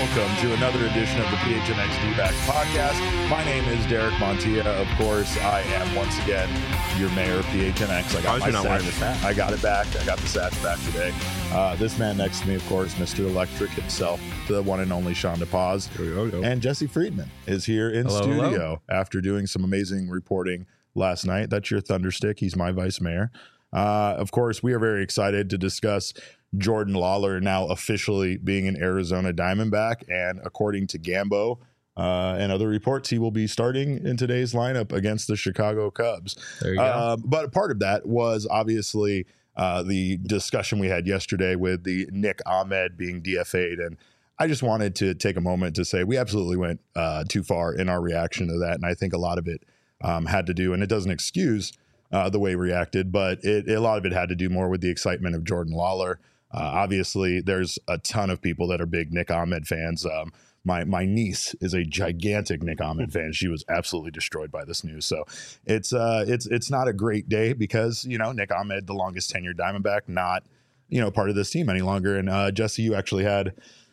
welcome to another edition of the PHNX D-Backs podcast. My name is Derek Montilla. Of course, I am once again your mayor of PHNX. I got it back. I got the satch back today. This man next to me, of course, Mr. Electric himself, the one and only Sean DePaz. And Jesse Friedman is here in studio after doing some amazing reporting last night. That's your Thunderstick. He's my vice mayor. Of course, we are very excited to discuss Jordan Lawlar now officially being an Arizona Diamondback, and according to Gambo and other reports, he will be starting in today's lineup against the Chicago Cubs. There you go. But part of that was obviously the discussion we had yesterday with the Nick Ahmed being DFA'd, and I just wanted to take a moment to say we absolutely went too far in our reaction to that, and I think a lot of it had to do, and it doesn't excuse the way he reacted, but a lot of it had to do more with the excitement of Jordan Lawlar. Obviously, there's a ton of people that are big Nick Ahmed fans. My niece is a gigantic Nick Ahmed fan. She was absolutely destroyed by this news. So it's not a great day because, Nick Ahmed, the longest tenured Diamondback, not, part of this team any longer. And Jesse, you actually had,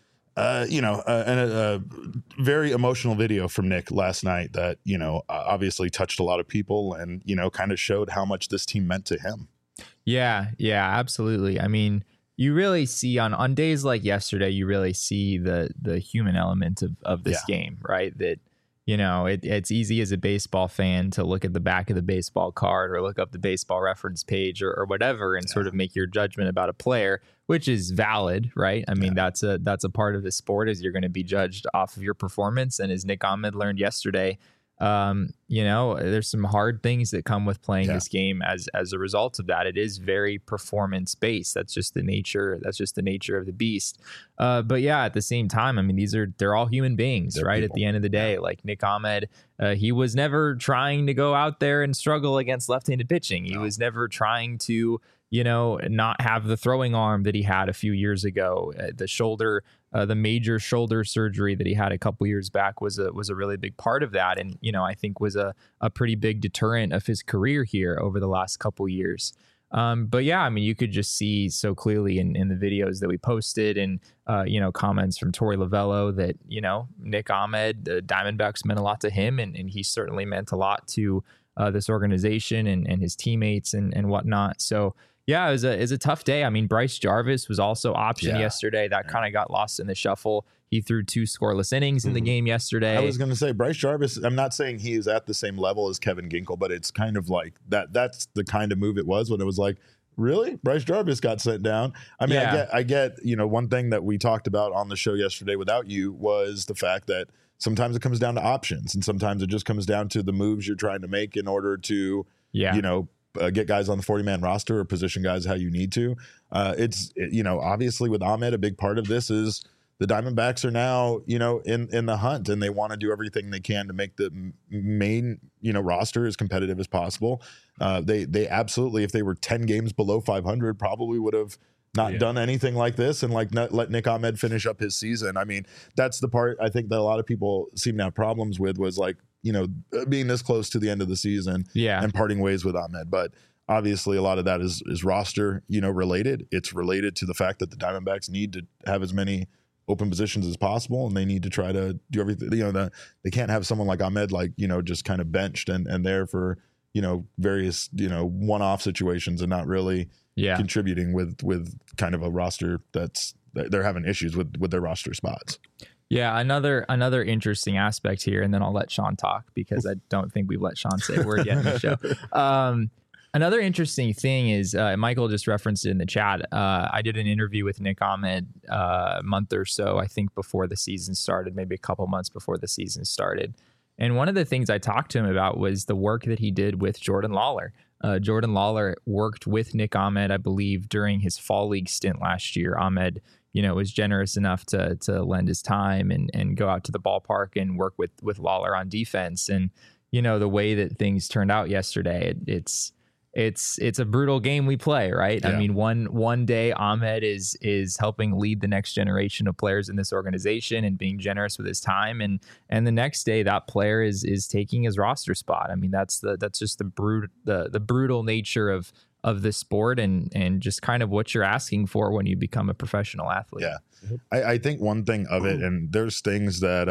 a very emotional video from Nick last night that, obviously touched a lot of people and, kind of showed how much this team meant to him. Yeah, absolutely. I mean, you really see on days like yesterday, you really see the human element of this game, right? That, it's easy as a baseball fan to look at the back of the baseball card or look up the baseball reference page or whatever and sort of make your judgment about a player, which is valid, right? I mean, that's a part of the sport, is you're going to be judged off of your performance. And as Nick Ahmed learned yesterday, there's some hard things that come with playing this game as a result of that. It is very performance based. That's just the nature of the beast. But yeah, at the same time, I mean, they're all human beings, right? People. At the end of the day, like Nick Ahmed, he was never trying to go out there and struggle against left-handed pitching. He was never trying to, not have the throwing arm that he had a few years ago. The major shoulder surgery that he had a couple years back was a really big part of that. And, I think was a pretty big deterrent of his career here over the last couple years. But yeah, I mean, you could just see so clearly in the videos that we posted and, comments from Torey Lovullo that, Nick Ahmed, the Diamondbacks meant a lot to him. And he certainly meant a lot to this organization and his teammates and whatnot. So, yeah, it was a tough day. I mean, Bryce Jarvis was also optioned yesterday. That kind of got lost in the shuffle. He threw 2 scoreless innings in the game yesterday. I was going to say Bryce Jarvis, I'm not saying he is at the same level as Kevin Ginkel, but it's kind of like that's the kind of move it was when it was like, really? Bryce Jarvis got sent down. I mean, I get, one thing that we talked about on the show yesterday without you was the fact that sometimes it comes down to options and sometimes it just comes down to the moves you're trying to make in order to, get guys on the 40-man roster or position guys how you need to. Obviously with Ahmed, a big part of this is the Diamondbacks are now, in the hunt, and they want to do everything they can to make the main, roster as competitive as possible. They absolutely, if they were 10 games below 500, probably would have not done anything like this and let Nick Ahmed finish up his season. I mean, that's the part I think that a lot of people seem to have problems with was like, being this close to the end of the season and parting ways with Ahmed. But obviously a lot of that is roster, related. It's related to the fact that the Diamondbacks need to have as many open positions as possible, and they need to try to do everything. They can't have someone like Ahmed, just kind of benched and there for, various, one-off situations and not really contributing with kind of a roster they're having issues with their roster spots. Yeah, another interesting aspect here, and then I'll let Sean talk because I don't think we've let Sean say a word yet in the show. Another interesting thing is Michael just referenced it in the chat. I did an interview with Nick Ahmed a month or so, I think, before the season started, maybe a couple months before the season started. And one of the things I talked to him about was the work that he did with Jordan Lawlar. Jordan Lawlar worked with Nick Ahmed, I believe, during his fall league stint last year. Ahmed, was generous enough to lend his time and go out to the ballpark and work with Lawlar on defense. And, the way that things turned out yesterday, it's a brutal game we play, right? Yeah. I mean, one day Ahmed is helping lead the next generation of players in this organization and being generous with his time, and the next day that player is taking his roster spot. I mean, that's just the brutal nature of of the sport and just kind of what you're asking for when you become a professional athlete. Yeah. I think one thing of it, and there's things that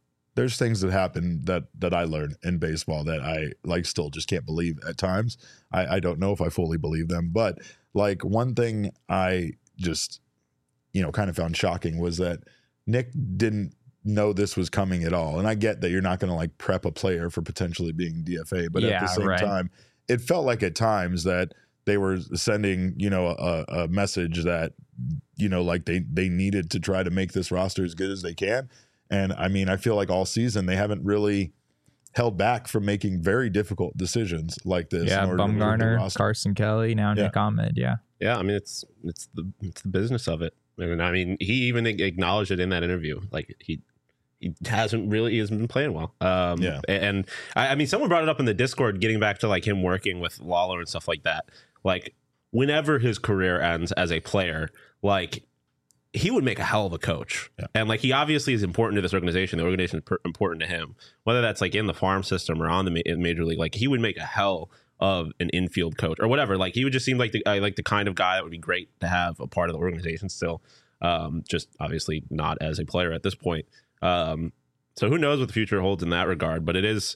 happen that I learned in baseball that I like still just can't believe at times. I don't know if I fully believe them, but like one thing I just, kind of found shocking was that Nick didn't know this was coming at all. And I get that you're not going to like prep a player for potentially being DFA, but at the same time, it felt like at times that they were sending, a message that, like they needed to try to make this roster as good as they can. And I mean, I feel like all season they haven't really held back from making very difficult decisions like this. Yeah, Bumgarner, Carson Kelly, now Nick Ahmed. Yeah. Yeah, I mean, it's the business of it. And I mean, he even acknowledged it in that interview. Like he hasn't been playing well. And I mean, someone brought it up in the Discord, getting back to like him working with Lawler and stuff like that. Like whenever his career ends as a player, like he would make a hell of a coach. Yeah. And like he obviously is important to this organization. The organization is important to him, whether that's like in the farm system or on the major league. Like he would make a hell of an infield coach or whatever. Like he would just seem like the kind of guy that would be great to have a part of the organization still. Just obviously not as a player at this point. So who knows what the future holds in that regard? But it is,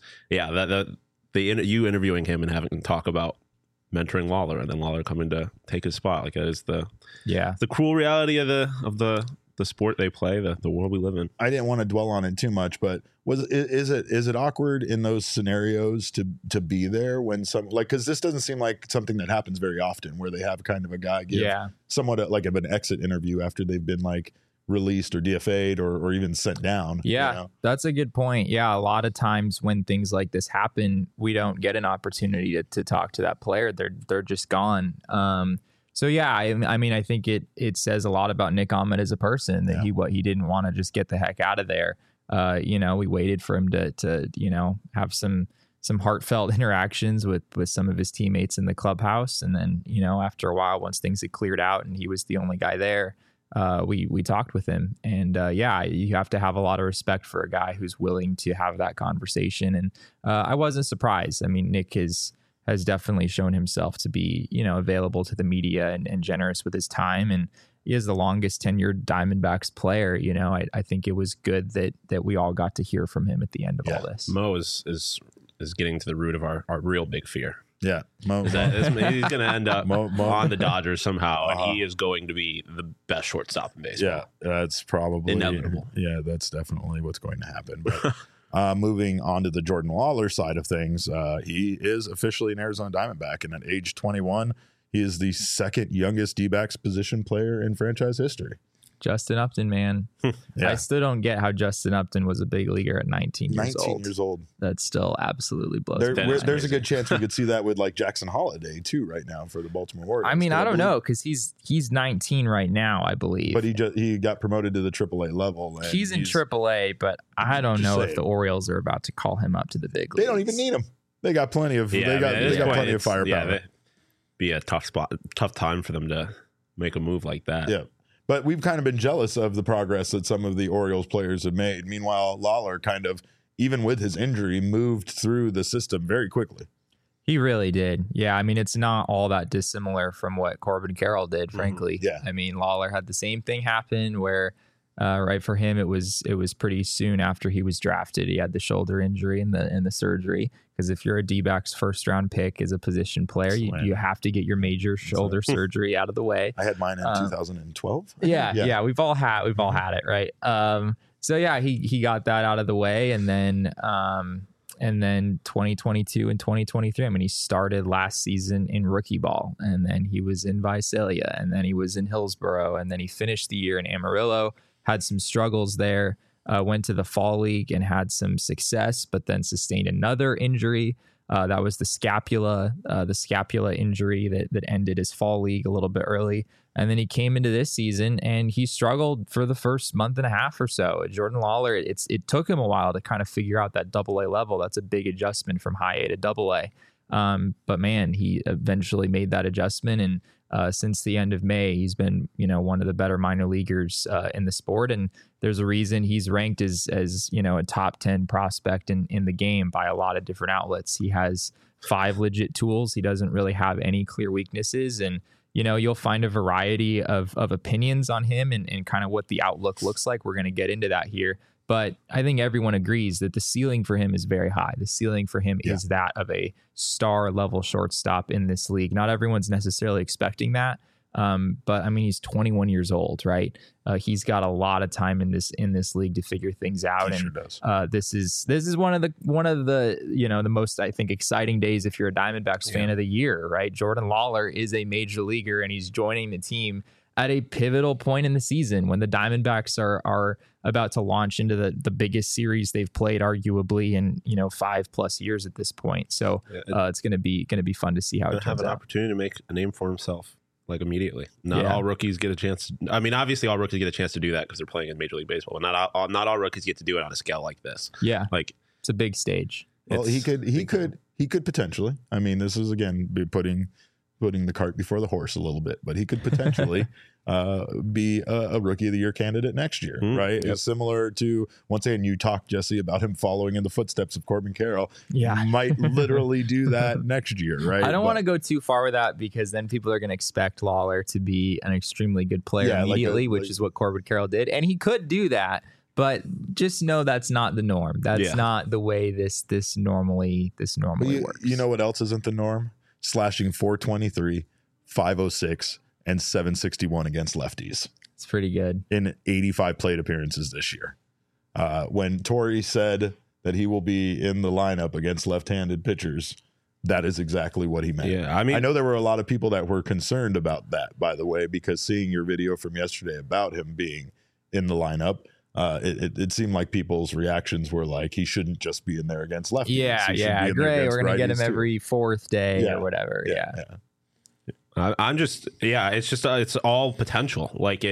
you interviewing him and having him talk about mentoring Lawler and then Lawler coming to take his spot. Like that is the cruel reality of the sport they play, the world we live in. I didn't want to dwell on it too much, but is it awkward in those scenarios to be there when because this doesn't seem like something that happens very often where they have kind of a guy give somewhat like of an exit interview after they've been like released or DFA'd or even sent down. Yeah, that's a good point. Yeah, a lot of times when things like this happen, we don't get an opportunity to talk to that player. They're just gone. So yeah, I mean, I think it says a lot about Nick Ahmed as a person that he didn't want to just get the heck out of there. We waited for him to have some heartfelt interactions with some of his teammates in the clubhouse, and then after a while, once things had cleared out and he was the only guy there, we talked with him. And you have to have a lot of respect for a guy who's willing to have that conversation. And I wasn't surprised. I mean, Nick has definitely shown himself to be, available to the media and generous with his time. And he is the longest tenured Diamondbacks player. I think it was good that we all got to hear from him at the end of all this. Mo is getting to the root of our real big fear. Yeah. He's going to end up on the Dodgers somehow, and he is going to be the best shortstop in baseball. Yeah, that's probably inevitable. Yeah, that's definitely what's going to happen. But moving on to the Jordan Lawler side of things, he is officially an Arizona Diamondback, and at age 21, he is the second youngest D-backs position player in franchise history. Justin Upton, man. Yeah. I still don't get how Justin Upton was a big leaguer at 19 years old. That still absolutely blows me. There's a good chance we could see that with like Jackson Holiday too right now for the Baltimore Orioles. I mean, I don't know because he's 19 right now, I believe. But he got promoted to the AAA level. And he's in AAA, but I don't know if the Orioles are about to call him up to the big leagues. They don't even need him. They got plenty of plenty of firepower. Yeah, be a tough time for them to make a move like that. Yeah. But we've kind of been jealous of the progress that some of the Orioles players have made. Meanwhile, Lawler kind of, even with his injury, moved through the system very quickly. He really did. Yeah, I mean, it's not all that dissimilar from what Corbin Carroll did, frankly. Yeah. I mean, Lawler had the same thing happen where, for him, it was pretty soon after he was drafted. He had the shoulder injury and the surgery. Because if you're a D-backs first round pick as a position player, you have to get your major shoulder surgery out of the way. I had mine in 2012. Yeah, we've all had it, right? So yeah, he got that out of the way, and then 2022 and 2023. I mean, he started last season in rookie ball, and then he was in Visalia, and then he was in Hillsboro, and then he finished the year in Amarillo. Had some struggles there. Went to the fall league and had some success, but then sustained another injury. That was the scapula injury that ended his fall league a little bit early. And then he came into this season and he struggled for the first month and a half or so. Jordan Lawler, it took him a while to kind of figure out that AA level. That's a big adjustment from high A to AA. But man, he eventually made that adjustment. And since the end of May, he's been, one of the better minor leaguers in the sport. And there's a reason he's ranked as a top 10 prospect in the game by a lot of different outlets. He has 5 legit tools. He doesn't really have any clear weaknesses. And, you'll find a variety of opinions on him and kind of what the outlook looks like. We're going to get into that here. But I think everyone agrees that the ceiling for him is very high. The ceiling for him is that of a star level shortstop in this league. Not everyone's necessarily expecting that. But I mean, he's 21 years old, right? He's got a lot of time in this league to figure things out. He and sure does. This is one of the the most, I think, exciting days if you're a Diamondbacks fan of the year, right? Jordan Lawlar is a major leaguer and he's joining the team at a pivotal point in the season when the Diamondbacks are about to launch into the biggest series they've played arguably in 5+ years at this point. So it's going to be fun to see how it turns out. Have an opportunity to make a name for himself like immediately. Not all rookies get a chance. I mean, obviously all rookies get a chance to do that because they're playing in Major League Baseball. Not all rookies get to do it on a scale like this. Yeah, like it's a big stage. Well, he could potentially. I mean, this is again putting the cart before the horse a little bit, but he could potentially be a Rookie of the Year candidate next year, right? Yep. It's similar to, once again, you talked, Jesse, about him following in the footsteps of Corbin Carroll. Yeah. Might literally do that next year, right? I don't want to go too far with that because then people are going to expect Lawlar to be an extremely good player immediately, which is what Corbin Carroll did. And he could do that, but just know that's not the norm. That's not the way this normally works. You know what else isn't the norm? Slashing .423, .506, and .761 against lefties. It's pretty good. In 85 plate appearances this year. When Torrey said that he will be in the lineup against left-handed pitchers, that is exactly what he meant. Yeah, I mean, I know there were a lot of people that were concerned about that, by the way, because seeing your video from yesterday about him being in the lineup, it seemed like people's reactions were like he shouldn't just be in there against lefties. Yeah, great. We're gonna get him every 4th day or whatever. Yeah. I'm just it's just it's all potential. Like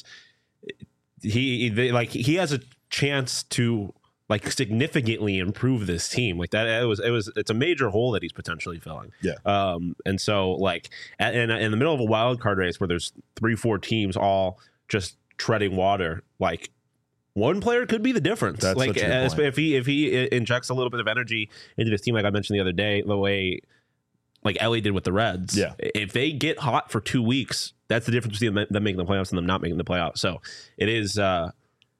he has a chance to like significantly improve this team. Like that it's a major hole that he's potentially filling. Yeah. And so like in the middle of a wild card race where there's 3-4 teams all just treading water, like one player could be the difference. That's like if he injects a little bit of energy into this team, like I mentioned the other day, the way like Ellie did with the Reds. Yeah. If they get hot for 2 weeks, that's the difference between them making the playoffs and them not making the playoffs. So it is not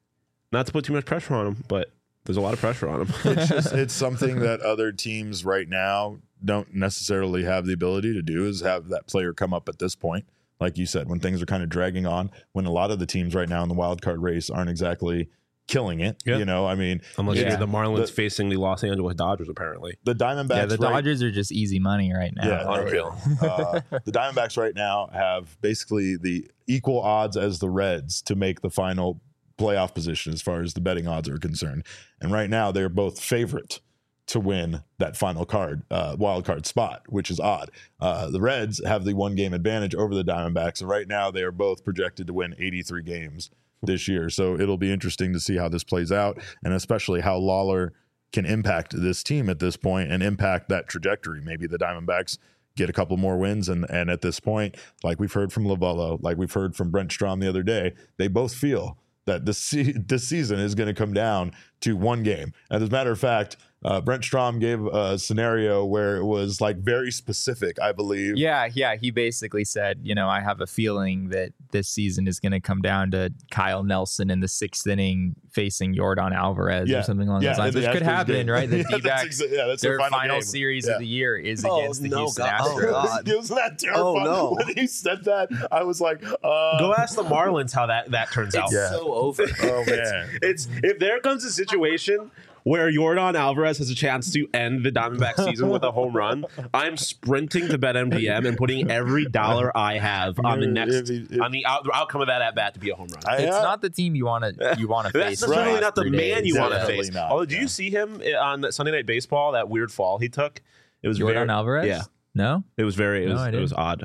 to put too much pressure on him, but there's a lot of pressure on him. It's something that other teams right now don't necessarily have the ability to do, is have that player come up at this point. Like you said, when things are kind of dragging on, when a lot of the teams right now in the wild card race aren't exactly killing it. I mean, unless you're the Marlins facing the Los Angeles Dodgers, apparently. The Diamondbacks. Yeah, the Dodgers are just easy money right now. Yeah, unreal. The Diamondbacks right now have basically the equal odds as the Reds to make the final playoff position as far as the betting odds are concerned. And right now they're both favorite to win that final wild card spot, which is odd. The Reds have the 1-game advantage over the Diamondbacks, and right now they are both projected to win 83 games this year. So it'll be interesting to see how this plays out, and especially how Lawlar can impact this team at this point and impact that trajectory. Maybe the Diamondbacks get a couple more wins, and at this point, like we've heard from Lovello, like we've heard from Brent Strom the other day, they both feel that this season is going to come down to 1 game. And as a matter of fact, Brent Strom gave a scenario where it was like very specific, I believe. Yeah. He basically said, I have a feeling that this season is going to come down to Kyle Nelson in the 6th inning facing Yordan Alvarez or something along those lines, which could happen, right? The D-backs, their final series of the year is against the Houston Astros. It was that terrifying. When he said that, I was like, go ask the Marlins how that turns out. It's so over. Oh, man. It's if there comes a situation where Yordan Alvarez has a chance to end the Diamondback season with a home run, I'm sprinting to BetMGM and putting every dollar I have on the outcome of that at bat to be a home run. It's not the team you want to face. That's certainly not the man you want to face. Not, although, do you see him on Sunday Night Baseball? That weird fall he took. It was Yordan Alvarez. Yeah, no, it was odd.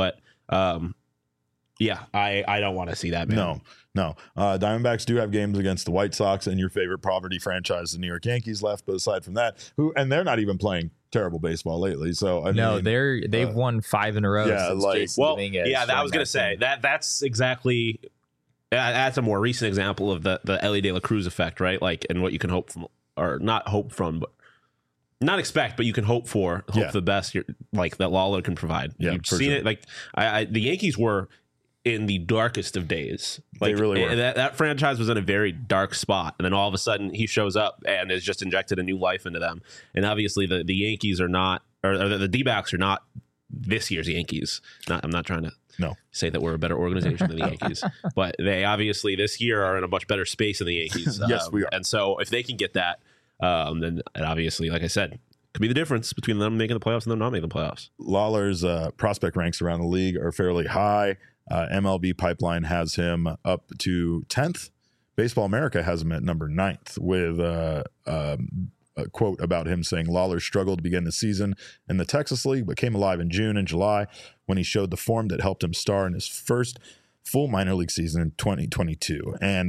Yeah, I don't want to see that, man. No. Diamondbacks do have games against the White Sox and your favorite poverty franchise, the New York Yankees, left. But aside from that, they're not even playing terrible baseball lately. So I mean, they've won 5 in a row. Yeah, since Jason Dominguez I was gonna say that's exactly. That's a more recent example of the Elly De La Cruz effect, right? Like, and what you can hope from, or not hope from, but not expect, but you can hope for, the best, like that Lawlar can provide. Yeah, you've seen it. Like, the Yankees were in the darkest of days. Like, they really were. That franchise was in a very dark spot, and then all of a sudden he shows up and has just injected a new life into them. And obviously, the Yankees are not, or the D-backs are not this year's Yankees. I'm not trying to say that we're a better organization than the Yankees, but they obviously this year are in a much better space than the Yankees. Yes, we are. And so if they can get that, then and obviously, like I said, could be the difference between them making the playoffs and them not making the playoffs. Lawlar's prospect ranks around the league are fairly high. MLB Pipeline has him up to 10th. Baseball America has him at number 9th with a quote about him saying Lawlar struggled to begin the season in the Texas League, but came alive in June and July when he showed the form that helped him star in his first full minor league season in 2022. And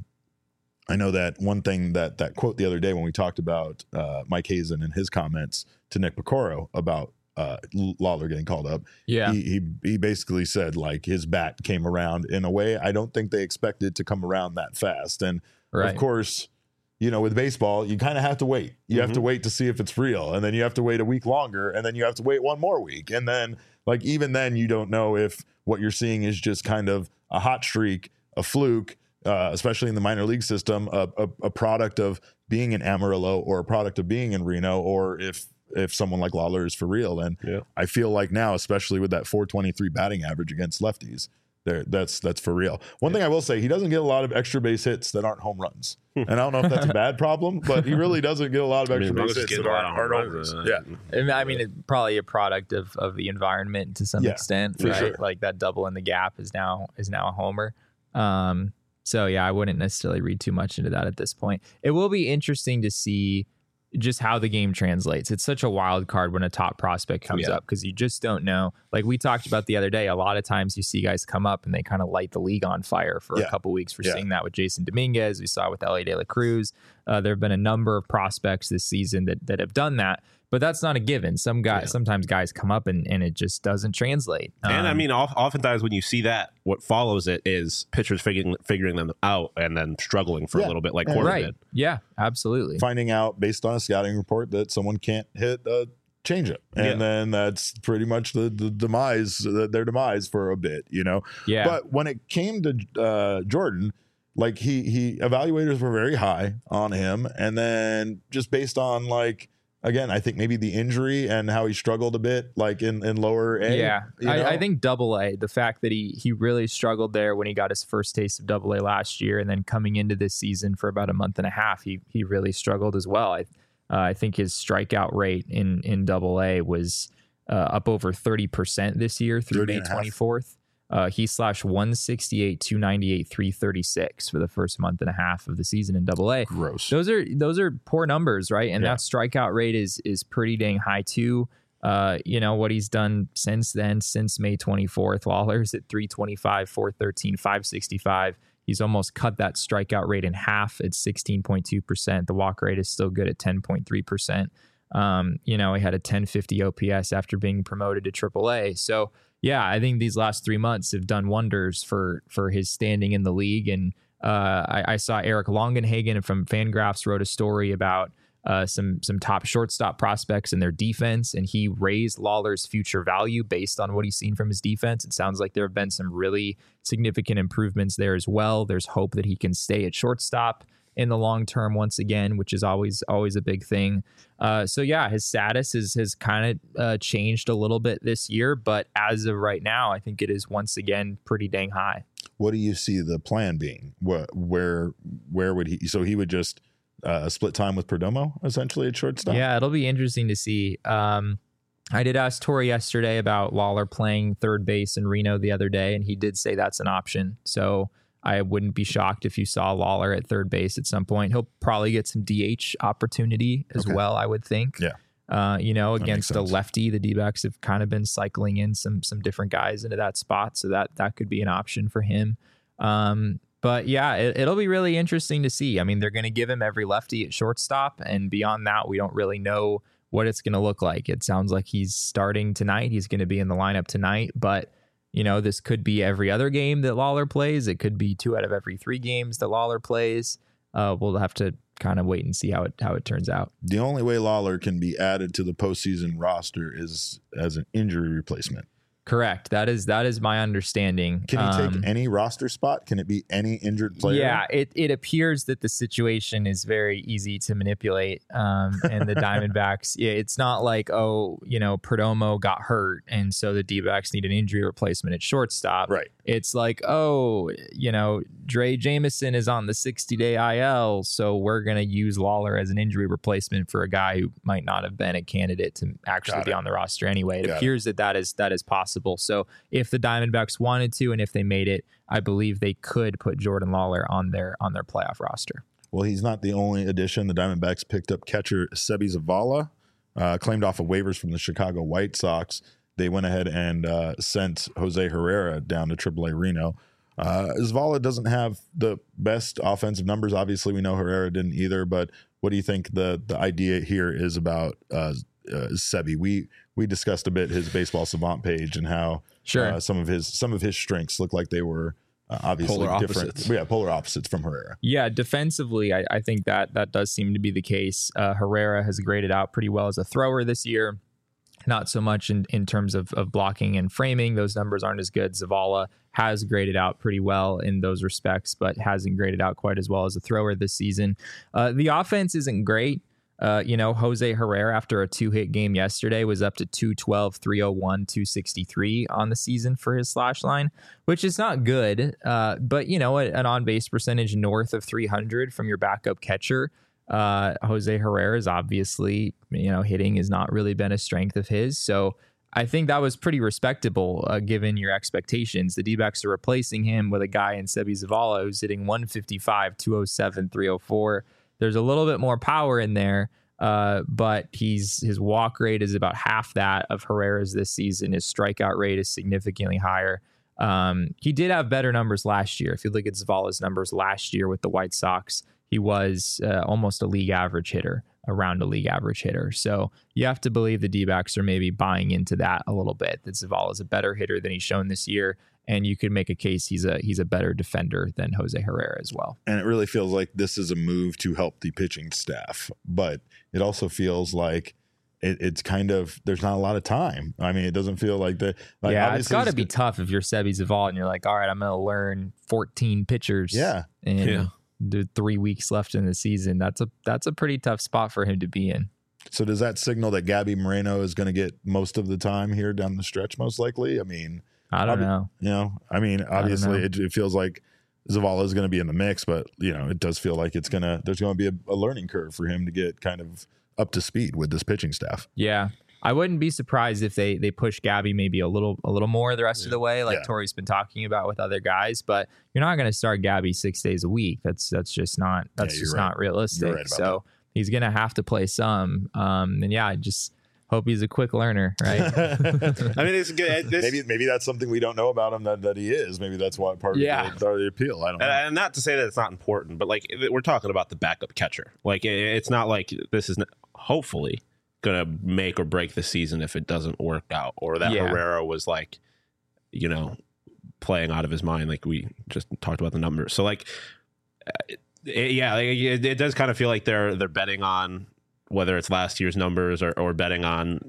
I know that one thing that quote the other day when we talked about Mike Hazen and his comments to Nick Piccolo about Lawlar getting called up. Yeah. He basically said like his bat came around in a way I don't think they expected to come around that fast. And of course, you know, with baseball, you kind of have to wait. You have to wait to see if it's real. And then you have to wait a week longer. And then you have to wait one more week. And then, like, even then, you don't know if what you're seeing is just kind of a hot streak, a fluke, especially in the minor league system, a product of being in Amarillo or a product of being in Reno, or if someone like Lawlar is for real. And I feel like now, especially with that 423 batting average against lefties, that's for real. One thing I will say, he doesn't get a lot of extra base hits that aren't home runs. And I don't know if that's a bad problem, but he really doesn't get a lot of extra base hits that aren't home runs. I mean, it's probably a product of the environment to some extent, right? Sure. Like that double in the gap is now a homer. So yeah, I wouldn't necessarily read too much into that at this point. It will be interesting to see just how the game translates. It's such a wild card when a top prospect comes up because you just don't know. Like we talked about the other day, a lot of times you see guys come up and they kind of light the league on fire for a couple weeks. We're seeing that with Jason Dominguez. We saw it with Elly De La Cruz. There have been a number of prospects this season that have done that. But that's not a given. Sometimes guys come up and it just doesn't translate. And I mean, oftentimes when you see that, what follows it is pitchers figuring them out and then struggling for a little bit, like Corbin did. Yeah, absolutely. Finding out based on a scouting report that someone can't hit a changeup, and then that's pretty much the demise, their demise for a bit, you know. Yeah. But when it came to Jordan, like he evaluators were very high on him, and then just based on like. Again, I think maybe the injury and how he struggled a bit, like in lower A. Yeah, I think double A, the fact that he really struggled there when he got his first taste of double A last year, and then coming into this season for about a month and a half, he really struggled as well. I think his strikeout rate in double A was up over 30% this year through May 24th. He slashed 168, 298, 336 for the first month and a half of the season in Double A. Gross. Those are poor numbers, right? And that strikeout rate is pretty dang high too. You know what he's done since then, since May 24th. Lawlar's at 325, 413, 565. He's almost cut that strikeout rate in half at 16.2%. The walk rate is still good at 10.3%. You know, he had a 1050 OPS after being promoted to AAA. So yeah, I think these last 3 months have done wonders for his standing in the league. And I saw Eric Longenhagen from Fangraphs wrote a story about some top shortstop prospects and their defense, and he raised Lawlar's future value based on what he's seen from his defense. It sounds like there have been some really significant improvements there as well. There's hope that he can stay at shortstop in the long term once again, which is always a big thing. So yeah, his status has kind of changed a little bit this year, but as of right now, I think it is once again pretty dang high. What do you see the plan being? Where would he? So he would just split time with Perdomo essentially at shortstop. Yeah, it'll be interesting to see. I did ask Tori yesterday about Lawlar playing third base in Reno the other day, and he did say that's an option. So I wouldn't be shocked if you saw Lawlar at third base at some point. He'll probably get some DH opportunity as well, I would think. Yeah. You know, against a lefty, the D-backs have kind of been cycling in some different guys into that spot, so that could be an option for him. But yeah, it'll be really interesting to see. I mean, they're going to give him every lefty at shortstop, and beyond that, we don't really know what it's going to look like. It sounds like he's starting tonight. He's going to be in the lineup tonight, but this could be every other game that Lawler plays. It could be 2 out of every 3 games that Lawler plays. We'll have to kind of wait and see how it turns out. The only way Lawler can be added to the postseason roster is as an injury replacement. Correct. That is my understanding. Can he take any roster spot? Can it be any injured player? Yeah, it appears that the situation is very easy to manipulate. And the Diamondbacks, it's not like, Perdomo got hurt and so the D-backs need an injury replacement at shortstop. Right. It's like, Dre Jameson is on the 60-day IL, so we're going to use Lawler as an injury replacement for a guy who might not have been a candidate to actually be on the roster anyway. It appears that is possible. So if the Diamondbacks wanted to, and if they made it, I believe they could put Jordan Lawler on their playoff roster. Well, he's not the only addition. The Diamondbacks picked up catcher Seby Zavala, claimed off of waivers from the Chicago White Sox. They went ahead and sent Jose Herrera down to AAA Reno. Zavala doesn't have the best offensive numbers. Obviously, we know Herrera didn't either. But what do you think the idea here is about Seby? We discussed a bit his Baseball Savant page and how some of his strengths look like they were obviously different. Polar opposites from Herrera. Yeah, defensively, I think that does seem to be the case. Herrera has graded out pretty well as a thrower this year. Not so much in terms of blocking and framing. Those numbers aren't as good. Zavala has graded out pretty well in those respects, but hasn't graded out quite as well as a thrower this season. The offense isn't great. Jose Herrera, after a 2-hit game yesterday, was up to 212, 301, 263 on the season for his slash line, which is not good. But an on-base percentage north of 300 from your backup catcher. Jose Herrera is obviously, hitting has not really been a strength of his. So I think that was pretty respectable given your expectations. The D-backs are replacing him with a guy in Seby Zavala who's hitting 155, 207, 304. There's a little bit more power in there, but his walk rate is about half that of Herrera's this season. His strikeout rate is significantly higher. He did have better numbers last year. If you look at Zavala's numbers last year with the White Sox, he was almost a league average hitter, around a league average hitter. So you have to believe the D-backs are maybe buying into that a little bit, that Zavala is a better hitter than he's shown this year. And you could make a case he's a better defender than Jose Herrera as well. And it really feels like this is a move to help the pitching staff. But it also feels like it's kind of, there's not a lot of time. I mean, it doesn't feel like that. It's got to be tough if you're Seby Zavala and you're like, all right, I'm going to learn 14 pitchers. And do 3 weeks left in the season. That's a pretty tough spot for him to be in. So does that signal that Gabby Moreno is going to get most of the time here down the stretch, most likely? I mean, I don't know. Obviously it feels like Zavala is going to be in the mix, but it does feel like there's going to be a learning curve for him to get kind of up to speed with this pitching staff. Yeah. I wouldn't be surprised if they push Gabby maybe a little more the rest of the way, like Tori's been talking about with other guys. But you're not going to start Gabby 6 days a week. That's just not not realistic. Right, so he's going to have to play some. I just hope he's a quick learner, right? I mean, it's good. Maybe that's something we don't know about him that he is. Maybe that's why part of the appeal. I don't know. And not to say that it's not important, but like we're talking about the backup catcher. Like it's not like this is hopefully going to make or break the season if it doesn't work out, or that Herrera was like, playing out of his mind. Like we just talked about the numbers. So like, it does kind of feel like they're betting on whether it's last year's numbers or betting on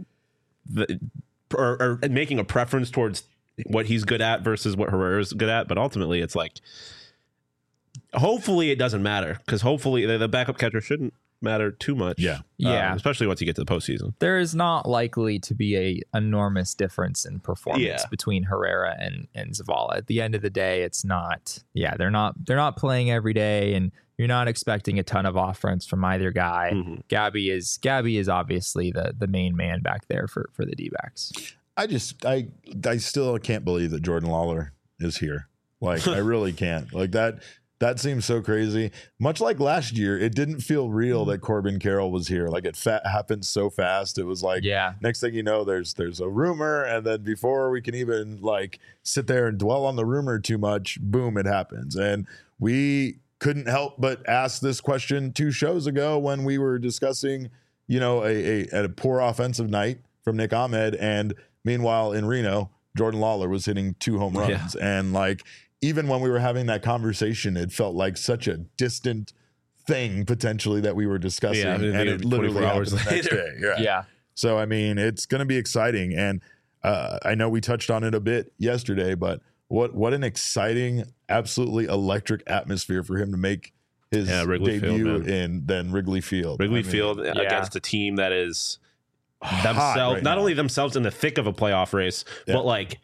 or making a preference towards what he's good at versus what Herrera's good at. But ultimately it's like, hopefully it doesn't matter, because hopefully the backup catcher shouldn't matter too much. Especially once you get to the postseason. There is not likely to be a enormous difference in performance between Herrera and Zavala. At the end of the day, it's not. They're not playing every day, and you're not expecting a ton of offense from either guy. Mm-hmm. Gabby is obviously the main man back there for the D-backs. I still can't believe that Jordan Lawler is here. Like I really can't. Like that. That seems so crazy. Much like last year, it didn't feel real that Corbin Carroll was here. Like it happened so fast. It was like, next thing you know, there's a rumor, and then before we can even like sit there and dwell on the rumor too much, boom, it happens. And we couldn't help but ask this question 2 shows ago when we were discussing a poor offensive night from Nick Ahmed, and meanwhile in Reno, Jordan Lawler was hitting 2 home runs. Yeah. And like, even when we were having that conversation, it felt like such a distant thing potentially that we were discussing. Yeah, and it literally happened the next day. Yeah. So, I mean, it's going to be exciting. And I know we touched on it a bit yesterday, but what an exciting, absolutely electric atmosphere for him to make his debut in Wrigley Field. Wrigley Field against a team that is themselves, not only themselves in the thick of a playoff race, but like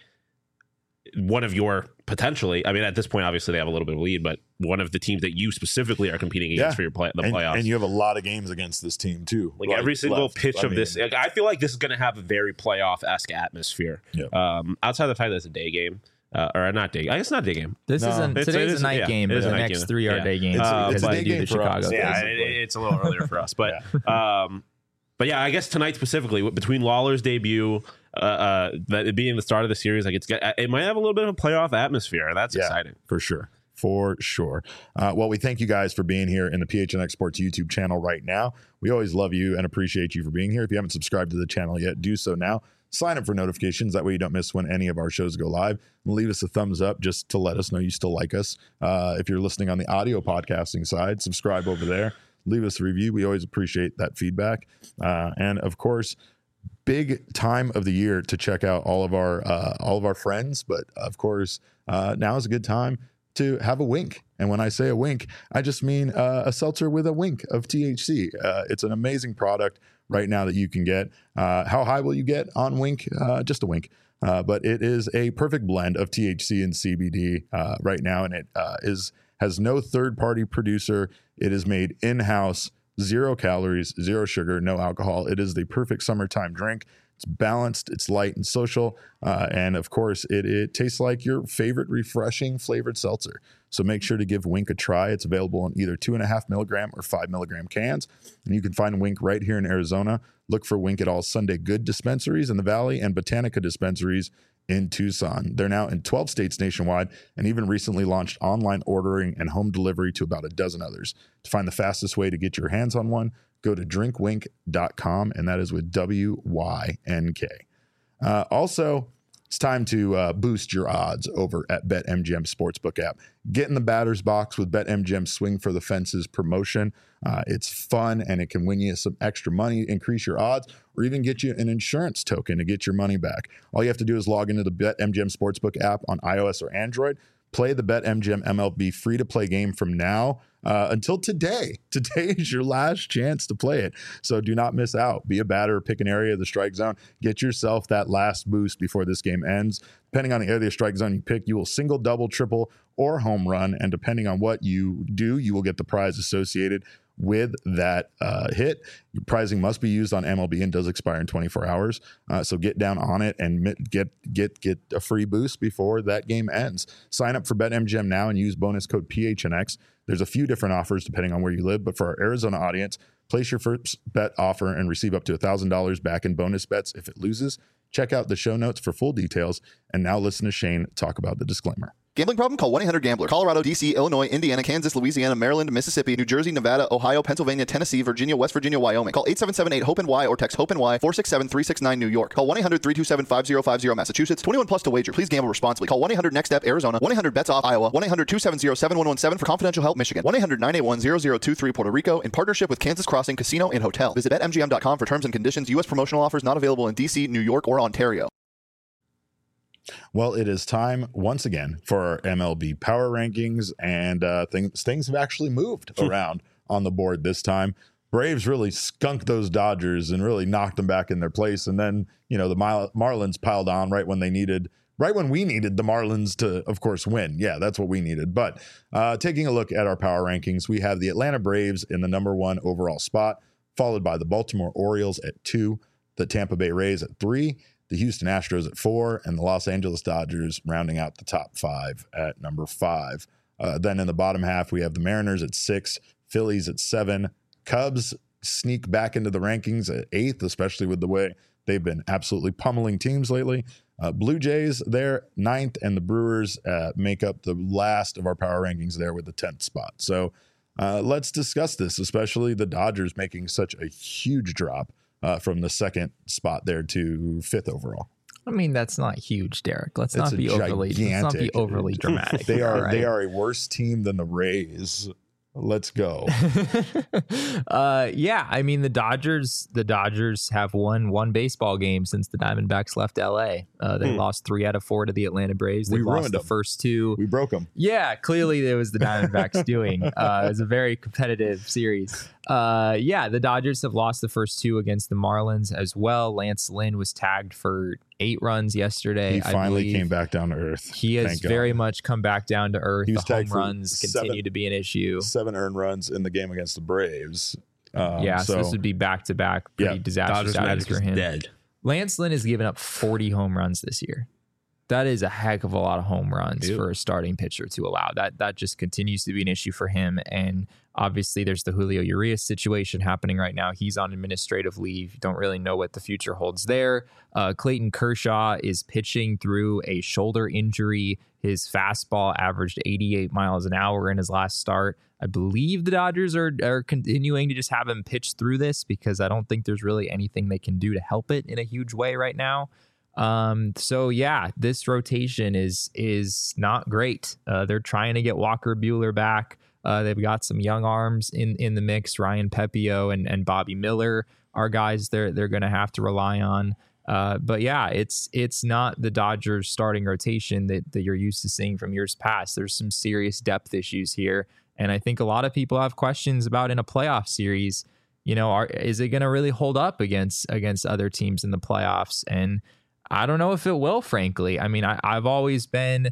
one of your potentially, I mean, at this point, obviously they have a little bit of a lead, but one of the teams that you specifically are competing against for the playoffs. And you have a lot of games against this team too. Like every single pitch of this, I feel like this is going to have a very playoff-esque atmosphere. Outside of the fact that it's a day game. Or not day. I guess not day game. Today's a night game, but the next 3 are day games. It's a day game for Chicago. It's a little earlier for us, but but yeah, I guess tonight specifically between Lawler's debut, that it being the start of the series, like it might have a little bit of a playoff atmosphere. That's exciting for sure. For sure. Well, we thank you guys for being here in the PHNX Sports YouTube channel right now. We always love you and appreciate you for being here. If you haven't subscribed to the channel yet, do so now. Sign up for notifications. That way you don't miss when any of our shows go live. And leave us a thumbs up just to let us know you still like us. If you're listening on the audio podcasting side, subscribe over there. Leave us a review. We always appreciate that feedback. And of course, big time of the year to check out all of our friends. But of course, now is a good time to have a wink. And when I say a wink, I just mean a seltzer with a wink of THC. It's an amazing product right now that you can get. How high will you get on Wink? Just a wink. But it is a perfect blend of THC and CBD right now. And it has no third-party producer. It is made in-house, 0 calories, 0 sugar, no alcohol. It is the perfect summertime drink. It's balanced, it's light and social, and of course, it tastes like your favorite refreshing flavored seltzer. So make sure to give Wink a try. It's available in either 2.5 milligram or 5 milligram cans, and you can find Wink right here in Arizona. Look for Wink at all Sunday Good dispensaries in the Valley and Botanica dispensaries in Tucson. They're now in 12 states nationwide and even recently launched online ordering and home delivery to about a dozen others. To find the fastest way to get your hands on one, go to drinkwink.com, and that is with WYNK. Also, it's time to boost your odds over at BetMGM Sportsbook app. Get in the batter's box with BetMGM Swing for the Fences promotion. It's fun, and it can win you some extra money, increase your odds, or even get you an insurance token to get your money back. All you have to do is log into the BetMGM Sportsbook app on iOS or Android. Play the BetMGM MLB free-to-play game from now until today. Today is your last chance to play it. So do not miss out. Be a batter, pick an area of the strike zone. Get yourself that last boost before this game ends. Depending on the area of the strike zone you pick, you will single, double, triple, or home run. And depending on what you do, you will get the prize associated with that hit. Your prizing must be used on MLB and does expire in 24 hours. So get down on it and get a free boost before that game ends. Sign up for BetMGM now and use bonus code PHNX. There's a few different offers depending on where you live, but for our Arizona audience, place your first bet offer and receive up to $1,000 back in bonus bets if it loses. Check out the show notes for full details. And now listen to Shane talk about the disclaimer. Gambling problem? Call 1-800-GAMBLER. Colorado, D.C., Illinois, Indiana, Kansas, Louisiana, Maryland, Mississippi, New Jersey, Nevada, Ohio, Pennsylvania, Tennessee, Virginia, West Virginia, Wyoming. Call 877-8-HOPE-NY or text HOPE-NY 467-369 New York. Call 1-800-327-5050 Massachusetts. 21 plus to wager. Please gamble responsibly. Call 1-800-NEXT-STEP Arizona. 1-800-BETS-OFF Iowa. 1-800-270-7117 for confidential help Michigan. 1-800-981-0023 Puerto Rico in partnership with Kansas Crossing Casino and Hotel. Visit BetMGM.com for terms and conditions. U.S. promotional offers not available in D.C., New York, or Ontario. Well, it is time once again for our MLB power rankings, and things have actually moved around on the board this time. Braves really skunked those Dodgers and really knocked them back in their place, and then the Marlins piled on right when we needed the Marlins to, of course, win. Yeah, that's what we needed. But taking a look at our power rankings, we have the Atlanta Braves in the number 1 overall spot, followed by the Baltimore Orioles at 2, the Tampa Bay Rays at 3, the Houston Astros at 4, and the Los Angeles Dodgers rounding out the top 5 at number 5. Then in the bottom half, we have the Mariners at 6, Phillies at 7, Cubs sneak back into the rankings at 8th, especially with the way they've been absolutely pummeling teams lately. Blue Jays there 9th, and the Brewers make up the last of our power rankings there with the 10th spot. So Let's discuss this, especially the Dodgers making such a huge drop from the second spot there to 5th overall. I mean, that's not huge, Derek. Let's not be overly dramatic. They are a worse team than the Rays. Let's go. Yeah, I mean the Dodgers have won one baseball game since the Diamondbacks left LA. They lost 3 out of 4 to the Atlanta Braves. They lost the first 2. We broke them. Yeah, clearly it was the Diamondbacks doing. It was a very competitive series. Yeah, the Dodgers have lost the first 2 against the Marlins as well. Lance Lynn was tagged for 8 runs yesterday. He finally came back down to earth. He has very much come back down to earth. The home runs continue to be an issue. 7 earned runs in the game against the Braves. So this would be back-to-back pretty disastrous outings for him. Dead. Lance Lynn has given up 40 home runs this year. That is a heck of a lot of home runs for a starting pitcher to allow. That just continues to be an issue for him. And obviously there's the Julio Urias situation happening right now. He's on administrative leave. You don't really know what the future holds there. Clayton Kershaw is pitching through a shoulder injury. His fastball averaged 88 miles an hour in his last start. I believe the Dodgers are continuing to just have him pitch through this because I don't think there's really anything they can do to help it in a huge way right now. So yeah, this rotation is not great. They're trying to get Walker Buehler back. They've got some young arms in the mix. Ryan Pepio and Bobby Miller are guys they're going to have to rely on. But yeah, it's not the Dodgers starting rotation that you're used to seeing from years past. There's some serious depth issues here. And I think a lot of people have questions about in a playoff series, is it going to really hold up against other teams in the playoffs? And I don't know if it will, frankly. I mean, I've always been,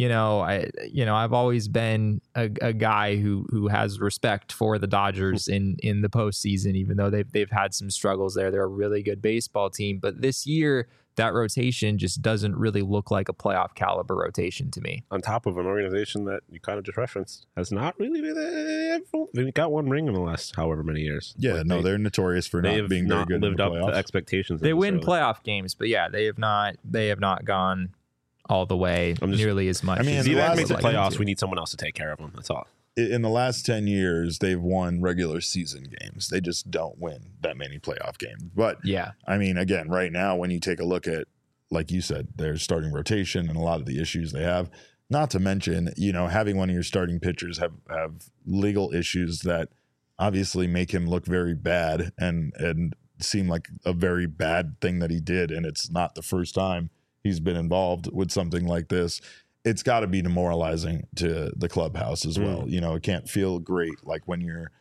I've always been a guy who has respect for the Dodgers in the postseason, even though they've had some struggles there. They're a really good baseball team, but this year that rotation just doesn't really look like a playoff caliber rotation to me. On top of an organization that you kind of just referenced has not really been. They've got 1 ring in the last however many years. Yeah, they're notorious for not being very good. Lived up to expectations. They win playoff games, but yeah, they have not gone all the way nearly as much. I mean, if you make the playoffs, we need someone else to take care of them. That's all. In the last 10 years, they've won regular season games. They just don't win that many playoff games. But yeah, I mean, again, right now, when you take a look at, like you said, their starting rotation and a lot of the issues they have, not to mention, having one of your starting pitchers have legal issues that obviously make him look very bad and seem like a very bad thing that he did. And it's not the first time he's been involved with something like this. It's got to be demoralizing to the clubhouse as well. It can't feel great. Like when you're,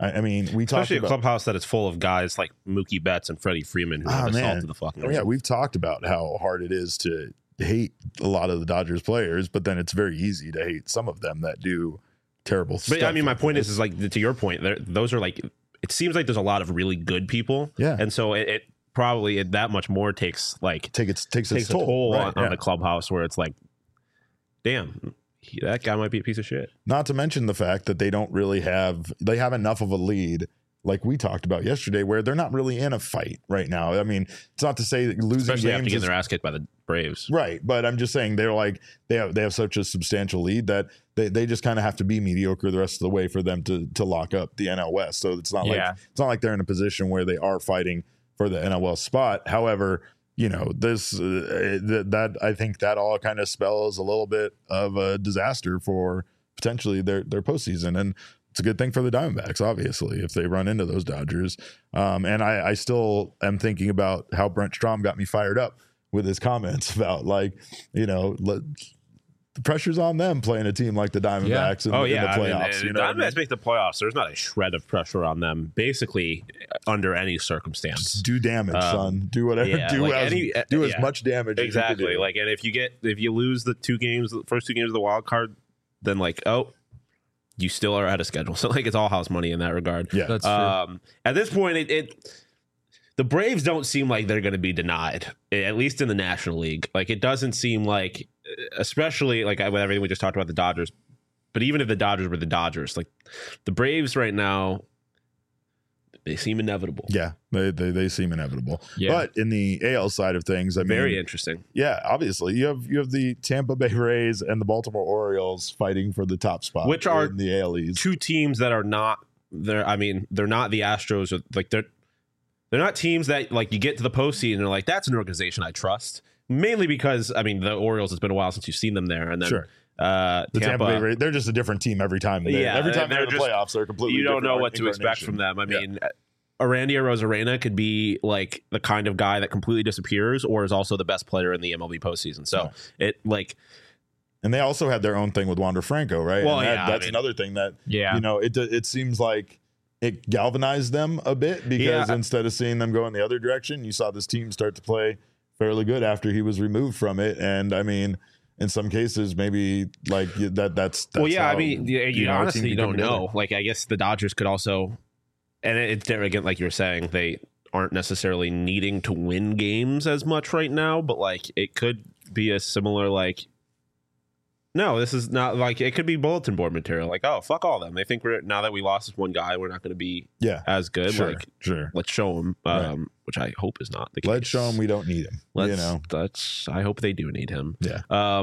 we talked about a clubhouse that is full of guys like Mookie Betts and Freddie Freeman who have assaulted the fucking. Oh yeah, we've talked about how hard it is to hate a lot of the Dodgers players, but then it's very easy to hate some of them that do terrible stuff. But I mean, my point is like to your point, those are like, it seems like there's a lot of really good people. Yeah, and so it probably that much more takes its toll on the clubhouse where it's like, damn, that guy might be a piece of shit. Not to mention the fact that they have enough of a lead, like we talked about yesterday, where they're not really in a fight right now. I mean, it's not to say that losing especially games after getting their ass kicked by the Braves, right? But I'm just saying they have such a substantial lead that they just kind of have to be mediocre the rest of the way for them to lock up the NL West. So it's not like they're in a position where they are fighting for the NL West spot. However, this that I think that all kind of spells a little bit of a disaster for potentially their postseason, and it's a good thing for the Diamondbacks, obviously, if they run into those Dodgers. And I still am thinking about how Brent Strom got me fired up with his comments about the pressure's on them playing a team like the Diamondbacks in the playoffs. The Diamondbacks make the playoffs. There's not a shred of pressure on them, basically, under any circumstance. Just do damage, son. Do whatever. Yeah, do as much damage. Exactly. As you can do. And if you lose the first 2 games of the wild card, then you still are out of schedule. So it's all house money in that regard. Yeah, that's true. At this point, the Braves don't seem like they're going to be denied, at least in the National League. It doesn't seem like, especially with everything we just talked about the Dodgers, but even if the Dodgers were the Dodgers, the Braves right now, They seem inevitable. Yeah, they seem inevitable. Yeah. But in the AL side of things, I mean, very interesting. Yeah, obviously you have the Tampa Bay Rays and the Baltimore Orioles fighting for the top spot, which are in the AL East. Two teams that are not there. I mean, they're not the Astros. Or like they're not teams that like you get to the postseason and they're like, that's an organization I trust. Mainly because I mean the Orioles, it's been a while since you've seen them there, and then sure. The Tampa Bay Rays, they're just a different team every time. Every time they're in the playoffs, they're completely. You don't know what to expect from them. I mean, Arandy Arozarena could be like the kind of guy that completely disappears, or is also the best player in the MLB postseason. So and they also had their own thing with Wander Franco, right? Well, that's another thing that it seems like it galvanized them a bit because instead of seeing them go in the other direction, you saw this team start to play fairly good after he was removed from it, and I mean. In some cases, maybe like that's well, yeah. How, I mean, you honestly don't know. Like, I guess the Dodgers could also, and it's again, like you were saying, they aren't necessarily needing to win games as much right now, but like it could be a similar like. No, this is not like it could be bulletin board material. Like, oh, fuck all them. They think now that we lost this one guy, we're not going to be as good. Sure, like, sure. Let's show them, which I hope is not the case. Let's show them we don't need him. I hope they do need him. Yeah.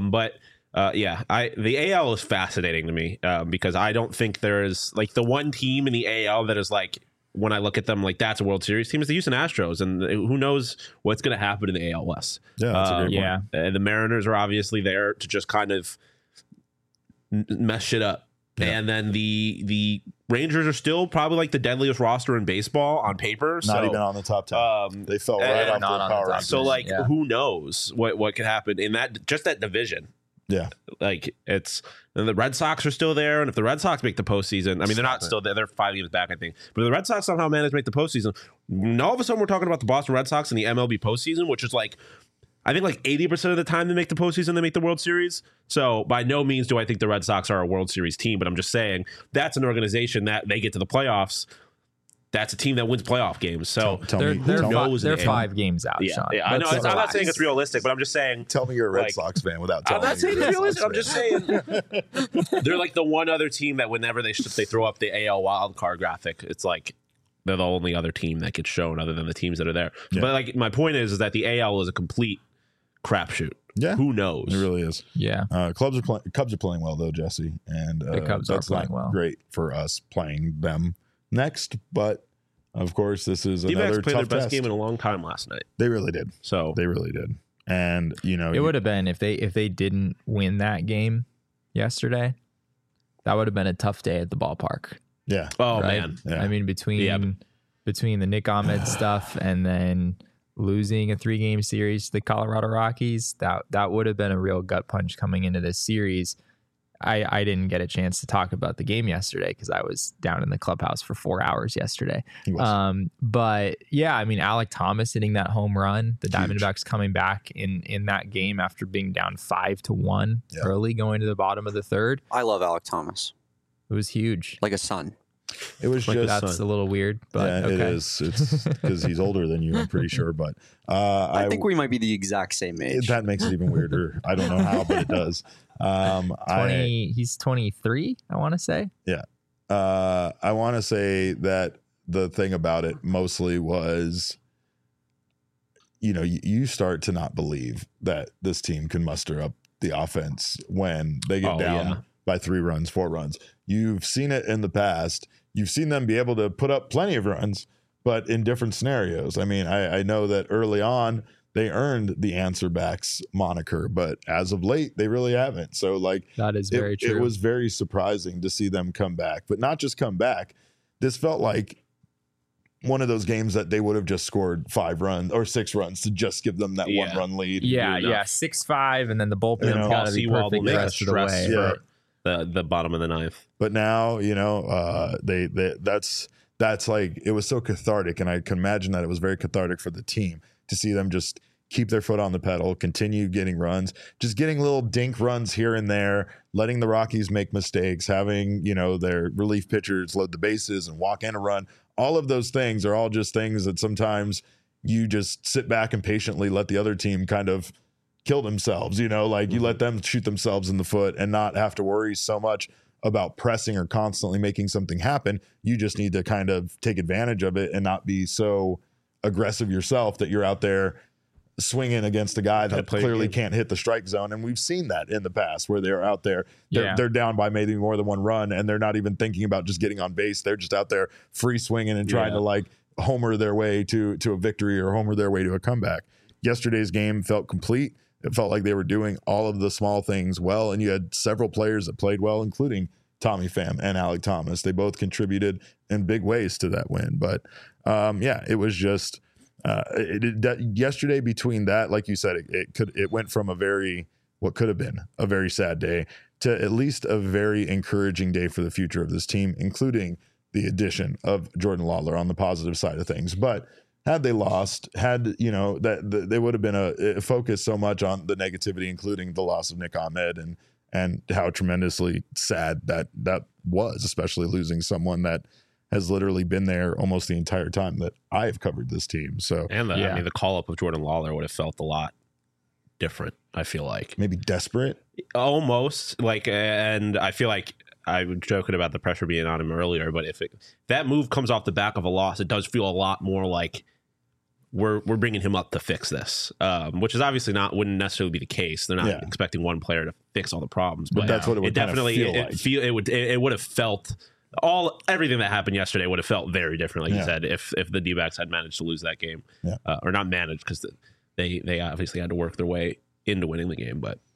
The AL is fascinating to me because I don't think there is like the one team in the AL that is like when I look at them like that's a World Series team is the Houston Astros, and who knows what's going to happen in the AL West. Yeah, that's a great point. The Mariners are obviously there to just kind of mess shit up. Yeah. And then the Rangers are still probably like the deadliest roster in baseball on paper. Not even on the top 10. They fell right off the power rankings. So like, who knows what could happen in that division? Yeah, like and the Red Sox are still there, and if the Red Sox make the postseason, I mean they're not still there; they're 5 games back, I think. But if the Red Sox somehow manage to make the postseason, all of a sudden we're talking about the Boston Red Sox in the MLB postseason, which is like. I think like 80% of the time they make the postseason, they make the World Series. So by no means do I think the Red Sox are a World Series team, but I'm just saying that's an organization that they get to the playoffs. That's a team that wins playoff games. So they're 5 games out. Yeah, Sean. yeah. I know. I'm not saying it's realistic, but I'm just saying. Tell me you're a Red Sox fan without telling me. I'm not saying it's realistic. I'm just saying they're like the one other team that whenever they throw up the AL wild card graphic, it's like they're the only other team that gets shown other than the teams that are there. Yeah. But like my point is that the AL is a complete crapshoot. Yeah, who knows? It really is. Yeah, Cubs are playing well though, Jesse, and the Cubs are playing well. Great for us playing them next, but of course this is another tough played their best test. game in a long time last night. They really did. So they really did, and it would have been if they didn't win that game yesterday. That would have been a tough day at the ballpark. Yeah. Oh man. Yeah. I mean between the Nick Ahmed stuff and then. Losing a 3-game series to the Colorado Rockies, that would have been a real gut punch coming into this series. I didn't get a chance to talk about the game yesterday because I was down in the clubhouse for 4 hours yesterday. But yeah, I mean, Alek Thomas hitting that home run, the Diamondbacks coming back in that game after being down 5-1 early going to the bottom of the third. I love Alek Thomas. It was huge. Like a son. It was like just that's a little weird, but it is. It's because he's older than you, I'm pretty sure. But I think we might be the exact same age. That makes it even weirder. I don't know how, but it does. He's 23. I want to say. Yeah, I want to say that the thing about it mostly was, you start to not believe that this team can muster up the offense when they get down by 3 runs, 4 runs. You've seen it in the past. You've seen them be able to put up plenty of runs, but in different scenarios. I mean, I know that early on they earned the answer backs moniker, but as of late, they really haven't. So like that is very true. It was very surprising to see them come back, but not just come back. This felt like one of those games that they would have just scored 5 runs or 6 runs to just give them that 1-run lead. Yeah, 6-5, and then the bullpen's got to be perfect the rest of the way. Yeah. The bottom of the 9th. But now, that's like, it was so cathartic, and I can imagine that it was very cathartic for the team to see them just keep their foot on the pedal, continue getting runs, just getting little dink runs here and there, letting the Rockies make mistakes, having, their relief pitchers load the bases and walk in a run. All of those things are all just things that sometimes you just sit back and patiently let the other team kind of kill themselves, you let them shoot themselves in the foot and not have to worry so much about pressing or constantly making something happen. You just need to kind of take advantage of it and not be so aggressive yourself that you're out there swinging against a guy that clearly can't hit the strike zone. And we've seen that in the past where they're out there, they're down by maybe more than one run, and they're not even thinking about just getting on base. They're just out there free swinging and trying to like homer their way to a victory or homer their way to a comeback. Yesterday's game felt complete. It felt like they were doing all of the small things well, and you had several players that played well, including Tommy Pham and Alek Thomas. They both contributed in big ways to that win. But it was just yesterday. Between that, like you said, it went from what could have been a very sad day to at least a very encouraging day for the future of this team, including the addition of Jordan Lawler on the positive side of things. But had they lost, that they would have been focused so much on the negativity, including the loss of Nick Ahmed and how tremendously sad that was, especially losing someone that has literally been there almost the entire time that I've covered this team. So, and the call up of Jordan Lawler would have felt a lot different. I feel like maybe desperate, almost like, and I feel like I was joking about the pressure being on him earlier, but if that move comes off the back of a loss, it does feel a lot more like we're bringing him up to fix this, which is obviously wouldn't necessarily be the case. They're not expecting one player to fix all the problems, but that's what it would definitely feel like. It would have felt everything that happened yesterday would have felt very different, like you said, if the D-backs had managed to lose that game, or not managed, because they obviously had to work their way into winning the game. But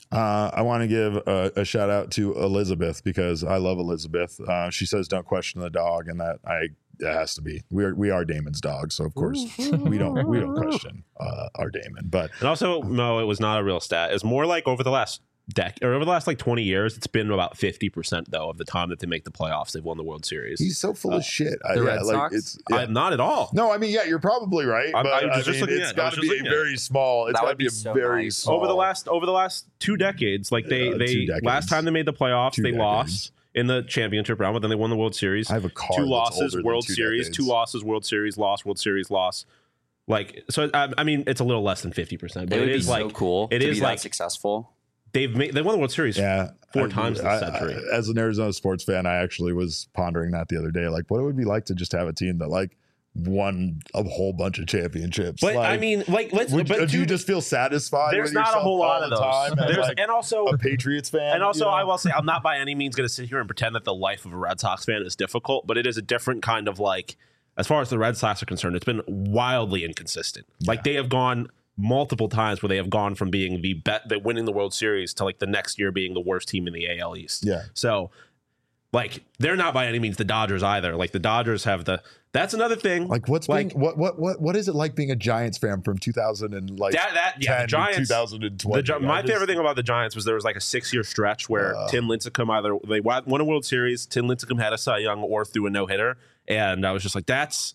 I want to give a shout out to Elizabeth, because I love Elizabeth. She says, "Don't question the dog," and it has to be. We are Damon's dog, so of course we don't question our Damon. And also, no, it was not a real stat. It's more like over the last like 20 years, it's been about 50% though of the time that they make the playoffs, they've won the World Series. He's so full of shit. The Red Sox? Not at all. No, I mean, you're probably right. It's got to be very small. It's got to be a very small. Over the last 2 decades, like they last time they made the playoffs, they lost in the championship round, but then they won the World Series. I have a car 2 losses, World Series, 2 losses, World Series, loss, World Series, loss. Like, so I mean, it's a little less than 50%, but it is like so cool. It is like successful. They won the World Series 4 times this century. As an Arizona sports fan, I actually was pondering that the other day, like what it would be like to just have a team that like won a whole bunch of championships. But I mean, like, do you just feel satisfied? There's not a whole lot of those. And also a Patriots fan. And also, I will say, I'm not by any means going to sit here and pretend that the life of a Red Sox fan is difficult, but it is a different kind of like, as far as the Red Sox are concerned, it's been wildly inconsistent. Like they have gone multiple times where they have gone from being the winning the World Series to like the next year being the worst team in the AL East. Yeah. So like they're not by any means the Dodgers either. Like the Dodgers have that's another thing. Like what is it like being a Giants fan from 2000 and like the Giants, 2020? My favorite thing about the Giants was there was like a 6-year stretch where Tim Lincecum they won a World Series, Tim Lincecum had a Cy Young or threw a no-hitter, and I was just like, that's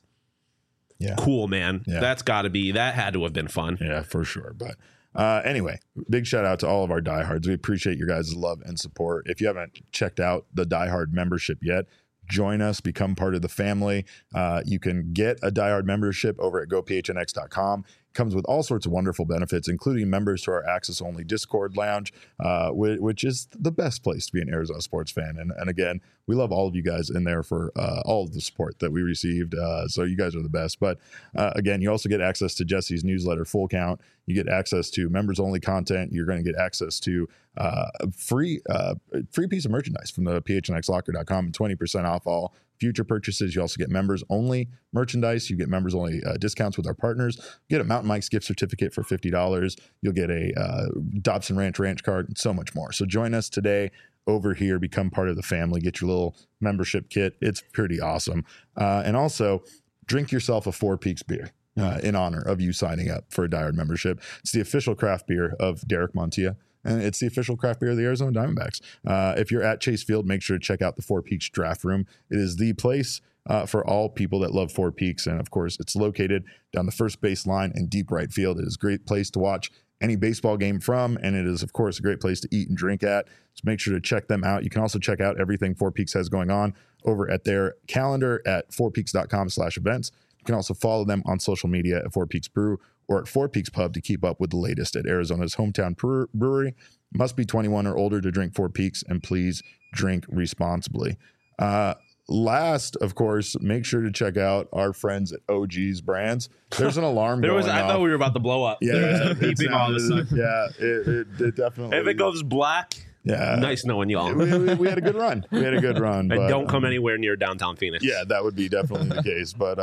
cool, man. Yeah. That had to have been fun. Yeah, for sure. But anyway, big shout out to all of our diehards. We appreciate your guys' love and support. If you haven't checked out the diehard membership yet, join us, become part of the family. You can get a diehard membership over at gophnx.com. Comes with all sorts of wonderful benefits, including members to our access-only Discord lounge, which is the best place to be an Arizona sports fan. And again, we love all of you guys in there for all of the support that we received. So you guys are the best. But again, you also get access to Jesse's newsletter, Full Count. You get access to members-only content. You're going to get access to a free piece of merchandise from the phnxlocker.com and 20% off all future purchases. You also get members only merchandise. You get members only discounts with our partners. You get a Mountain Mike's gift certificate for $50. You'll get a Dobson Ranch card and so much more. So join us today over here, become part of the family, get your little membership kit. It's pretty awesome. And also drink yourself a Four Peaks beer in honor of you signing up for a diehard membership. It's the official craft beer of Derek Montilla. And it's the official craft beer of the Arizona Diamondbacks. If you're at Chase Field, make sure to check out the Four Peaks Draft Room. It is the place for all people that love Four Peaks. And of course, it's located down the first base line in deep right field. It is a great place to watch any baseball game from. And it is, of course, a great place to eat and drink at. So make sure to check them out. You can also check out everything Four Peaks has going on over at their calendar at fourpeaks.com/events. can also follow them on social media at Four Peaks Brew or at Four Peaks Pub to keep up with the latest at Arizona's hometown brewery. Must be 21 or older to drink Four Peaks, and please drink responsibly. Last, of course, make sure to check out our friends at OG's Brands. There's an alarm going off. I thought we were about to blow up. Yeah, beeping all of a sudden. Yeah, it definitely. If it goes black, nice knowing y'all. We had a good run. And don't come anywhere near downtown Phoenix. Yeah, that would be definitely the case. But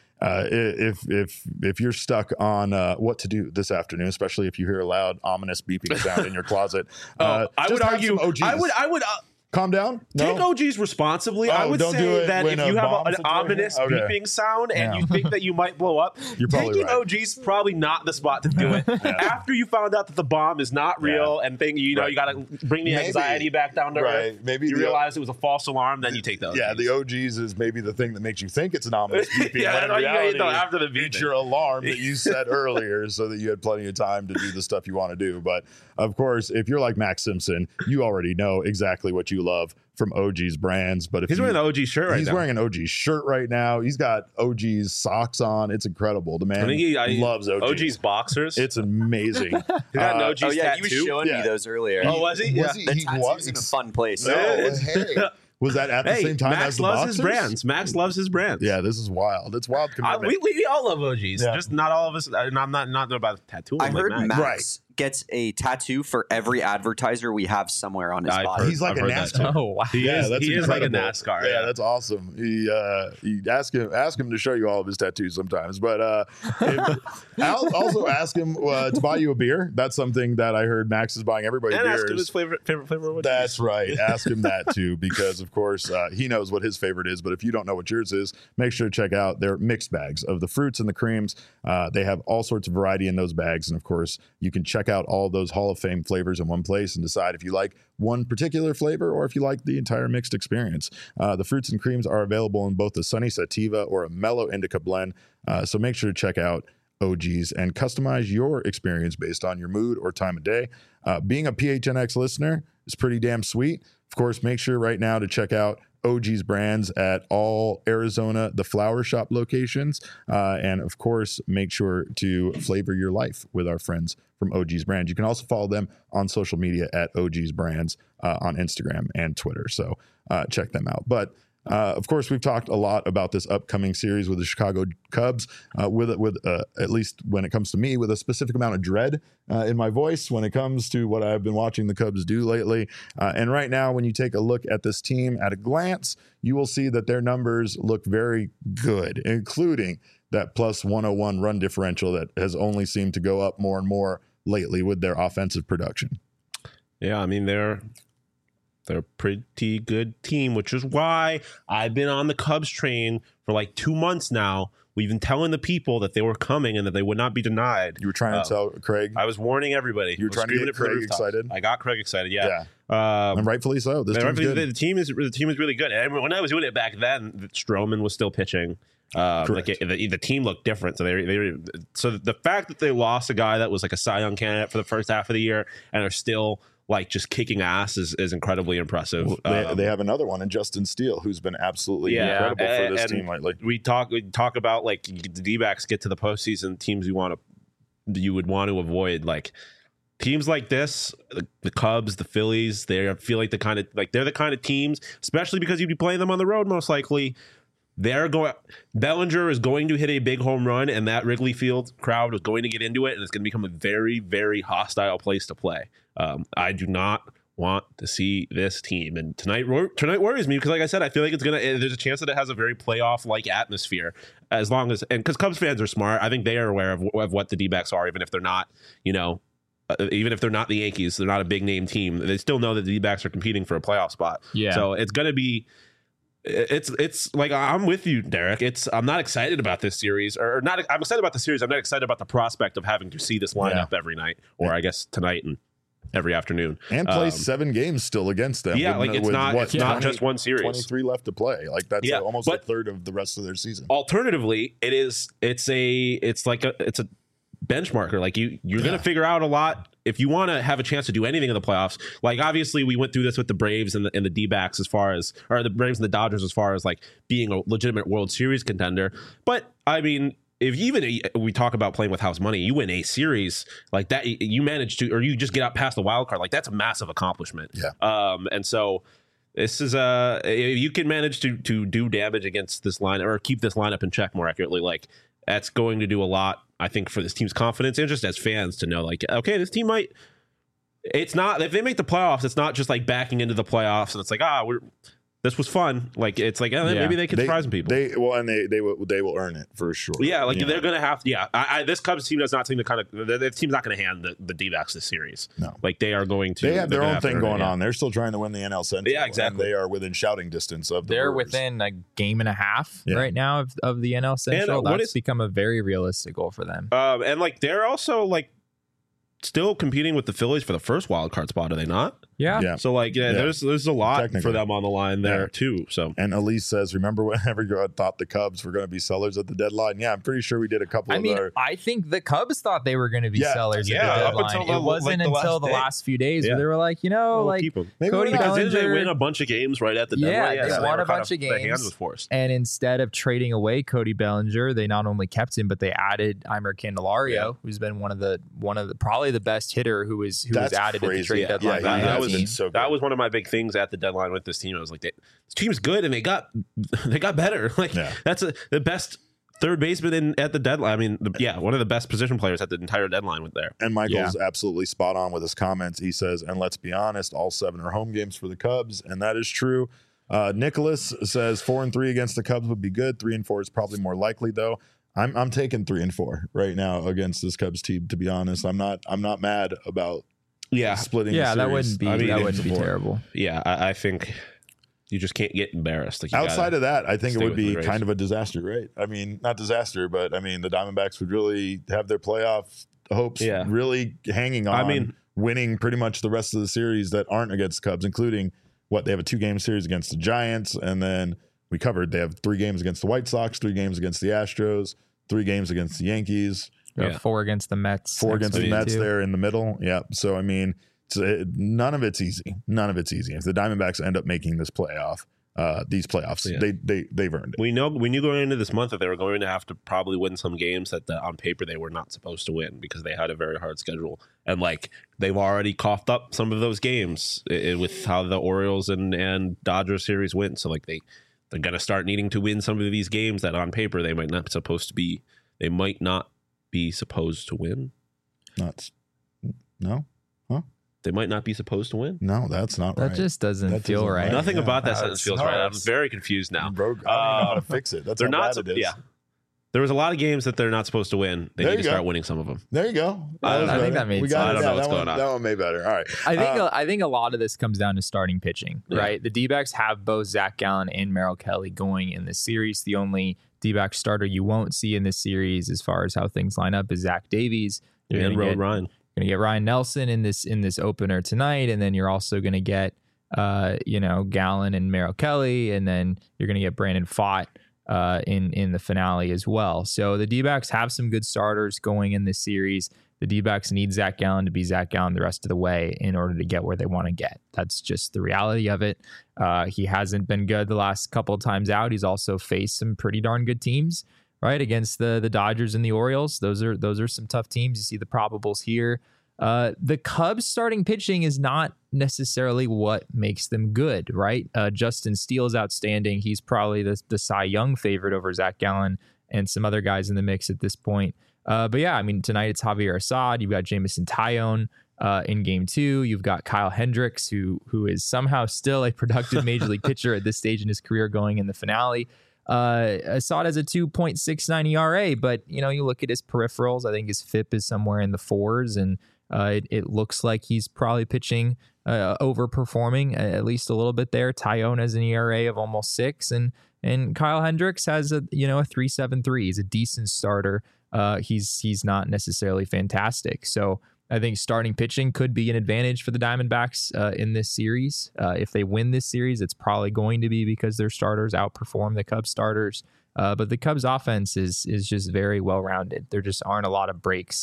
if you're stuck on what to do this afternoon, especially if you hear a loud, ominous beeping sound in your closet, I would argue. I would. Calm down. Take OGs responsibly. I would say that if you have an ominous beeping sound and you think that you might blow up, taking OGs probably not the spot to do it. After you found out that the bomb is not real and you got to bring the anxiety back down to earth. Maybe you realize it was a false alarm, then you take those. Yeah, the OGs is maybe the thing that makes you think it's an ominous beeping. Yeah, when in reality, after the beeping. It's your alarm that you set earlier so that you had plenty of time to do the stuff you want to do. But of course, if you're like Max Simpson, you already know exactly what you love from OG's Brands. But if he's wearing the OG shirt right now. He's wearing an OG shirt right now. He's got OG's socks on. It's incredible. The man loves OG's boxers. It's amazing. He got an OG's tattoo. He was showing me those earlier. Oh, was he? Yeah. The tattoo's in a fun place. Was that at the same time as the boxers? Max loves his brands. Yeah, this is wild. It's wild commitment. We all love OGs. Just not all of us. I'm not about tattooing. I heard Max gets a tattoo for every advertiser we have somewhere on his body. He's like a NASCAR. Oh, wow. He is like a NASCAR. Yeah, that's awesome. He ask him to show you all of his tattoos sometimes. But I'll also ask him to buy you a beer. That's something that I heard Max is buying everybody beers. Ask him his favorite flavor. That's right. Ask him that too, because of course he knows what his favorite is. But if you don't know what yours is, make sure to check out their mixed bags of the fruits and the creams. They have all sorts of variety in those bags, and of course you can check out all those Hall of Fame flavors in one place and decide if you like one particular flavor or if you like the entire mixed experience. The fruits and creams are available in both a sunny sativa or a mellow indica blend. So make sure to check out OGs and customize your experience based on your mood or time of day. Being a PHNX listener is pretty damn sweet. Of course, make sure right now to check out OG's Brands at all Arizona, the Flower Shop locations. And of course, make sure to flavor your life with our friends from OG's Brands. You can also follow them on social media at OG's Brands on Instagram and Twitter. So check them out. But of course, we've talked a lot about this upcoming series with the Chicago Cubs, with at least when it comes to me, with a specific amount of dread in my voice when it comes to what I've been watching the Cubs do lately. And right now, when you take a look at this team at a glance, you will see that their numbers look very good, including that plus 101 run differential that has only seemed to go up more and more lately with their offensive production. Yeah, I mean, they're a pretty good team, which is why I've been on the Cubs train for like 2 months now. We've been telling the people that they were coming and that they would not be denied. You were trying to tell Craig? I was warning everybody. You were trying to get Craig excited? I got Craig excited, yeah. And rightfully so. This team's good. The team is really good. And when I was doing it back then, Stroman was still pitching. The team looked different. So the fact that they lost a guy that was like a Cy Young candidate for the first half of the year and are still like just kicking ass is incredibly impressive. They have another one in Justin Steele, who's been absolutely incredible for this team lately. We talk about like the D-backs get to the postseason, teams you would want to avoid, like teams like this, the Cubs, the Phillies. They're the kind of teams, especially because you'd be playing them on the road most likely. Bellinger is going to hit a big home run, and that Wrigley Field crowd is going to get into it, and it's going to become a very, very hostile place to play. I do not want to see this team, and tonight worries me because, like I said, I feel like there's a chance that it has a very playoff-like atmosphere, because Cubs fans are smart. I think they are aware of what the D-backs are, even if they're not, even if they're not the Yankees, they're not a big name team. They still know that the D-backs are competing for a playoff spot. Yeah. So it's going to be. It's like, I'm with you, Derek. I'm not excited about this series, or not. I'm excited about the series. I'm not excited about the prospect of having to see this lineup every night, or I guess tonight and every afternoon, and play 7 games still against them. Yeah, it's not just one series. 23 left to play. Like that's almost a third of the rest of their season. Alternatively, it's a benchmarker. Like you're going to figure out a lot if you want to have a chance to do anything in the playoffs, like obviously we went through this with the Braves and the D-backs or the Braves and the Dodgers as far as like being a legitimate World Series contender. But I mean, if even we talk about playing with house money, you win a series like that, you manage to, or you just get out past the wild card, like that's a massive accomplishment. Yeah. And so this is if you can manage to do damage against this line or keep this lineup in check more accurately, like that's going to do a lot, I think, for this team's confidence and just as fans to know, like, okay, this team might. It's not, if they make the playoffs, it's not just like backing into the playoffs and it's like, this was fun. Like it's like maybe they can surprise some people. They will earn it for sure. Yeah, like they're gonna have to. Yeah, this Cubs team does not seem to kind of. The team's not going to hand the D-backs this series. No, like they are going to. They have their own thing going on. They're still trying to win the NL Central. Yeah, exactly. And they are within shouting distance of. They're within a game and a half right now of the NL Central. And, that's become a very realistic goal for them. And like they're also like still competing with the Phillies for the first wild card spot, are they not? Yeah. So like, there's a lot for them on the line there too. So, and Elise says, remember whenever you thought the Cubs were going to be sellers at the deadline? Yeah, I'm pretty sure we did a couple. I think the Cubs thought they were going to be sellers at the deadline. It wasn't until the last few days where they were like, Cody Bellinger. They win a bunch of games right at the deadline. Yeah, they won a bunch of games. The hand was forced. And instead of trading away Cody Bellinger, they not only kept him, but they added Eimer Candelario, who's been one of the probably the best hitter who was added at the trade deadline. That was one of my big things at the deadline with this team. I was like, this team's good, and they got better. Like that's the best third baseman at the deadline. I mean, one of the best position players at the entire deadline with there. And Michael's absolutely spot on with his comments. He says, and let's be honest, all 7 are home games for the Cubs, and that is true. Nicholas says 4-3 against the Cubs would be good. 3-4 is probably more likely, though. I'm taking 3-4 right now against this Cubs team. To be honest, I'm not mad about. Splitting. Yeah, that wouldn't be terrible. Yeah, I think you just can't get embarrassed. Like outside of that, I think it would be kind of a disaster, right? I mean, not disaster, but I mean, the Diamondbacks would really have their playoff hopes really hanging on winning pretty much the rest of the series that aren't against the Cubs, including they have a 2-game series against the Giants, and then we covered they have 3 games against the White Sox, 3 games against the Astros, 3 games against the Yankees. 4 against the Mets. 4 against the Mets there in the middle. Yeah. So, I mean, none of it's easy. None of it's easy. If the Diamondbacks end up making these playoffs, they've earned it. We knew going into this month that they were going to have to probably win some games that on paper they were not supposed to win because they had a very hard schedule. And like they've already coughed up some of those games with how the Orioles and Dodgers series went. So like they're going to start needing to win some of these games that on paper they might not be supposed to win. No? Huh? They might not be supposed to win. No, that's not right. That just doesn't feel right. Nothing about that sentence feels right. I'm very confused now. Bro, I don't know how to fix it. That's how bad it is. Yeah. There was a lot of games that they're not supposed to win. They need to start winning some of them. There you go. I think that made sense. I don't know what's going on. That one made better. All right. I think a lot of this comes down to starting pitching, right? The D-backs have both Zach Gallen and Merrill Kelly going in this series. The only D-back starter you won't see in this series as far as how things line up is Zach Davies. And Ryan. You're going to get Ryan Nelson in this opener tonight, and then you're also going to get Gallen and Merrill Kelly, and then you're going to get Brandon Pfaadt in the finale as well. So the D-backs have some good starters going in this series. The D-backs need Zach Gallen to be Zach Gallen the rest of the way in order to get where they want to get. That's just the reality of it. He hasn't been good the last couple of times out. He's also faced some pretty darn good teams, right? Against the Dodgers and the Orioles. Those are some tough teams. You see the probables here. The Cubs starting pitching is not necessarily what makes them good, right? Justin Steele is outstanding. He's probably the Cy Young favorite over Zach Gallen and some other guys in the mix at this point. But yeah, I mean, tonight it's Javier Assad. You've got Jameson Taillon in game 2. You've got Kyle Hendricks, who is somehow still a productive major league pitcher at this stage in his career going in the finale. Assad has a 2.69 ERA, but you look at his peripherals. I think his FIP is somewhere in the 4s, and it looks like he's probably pitching overperforming at least a little bit there. Taillon has an ERA of almost 6, and Kyle Hendricks has a 3.73. He's a decent starter. He's not necessarily fantastic. So I think starting pitching could be an advantage for the Diamondbacks in this series. If they win this series, it's probably going to be because their starters outperform the Cubs starters. But the Cubs offense is just very well-rounded. There just aren't a lot of breaks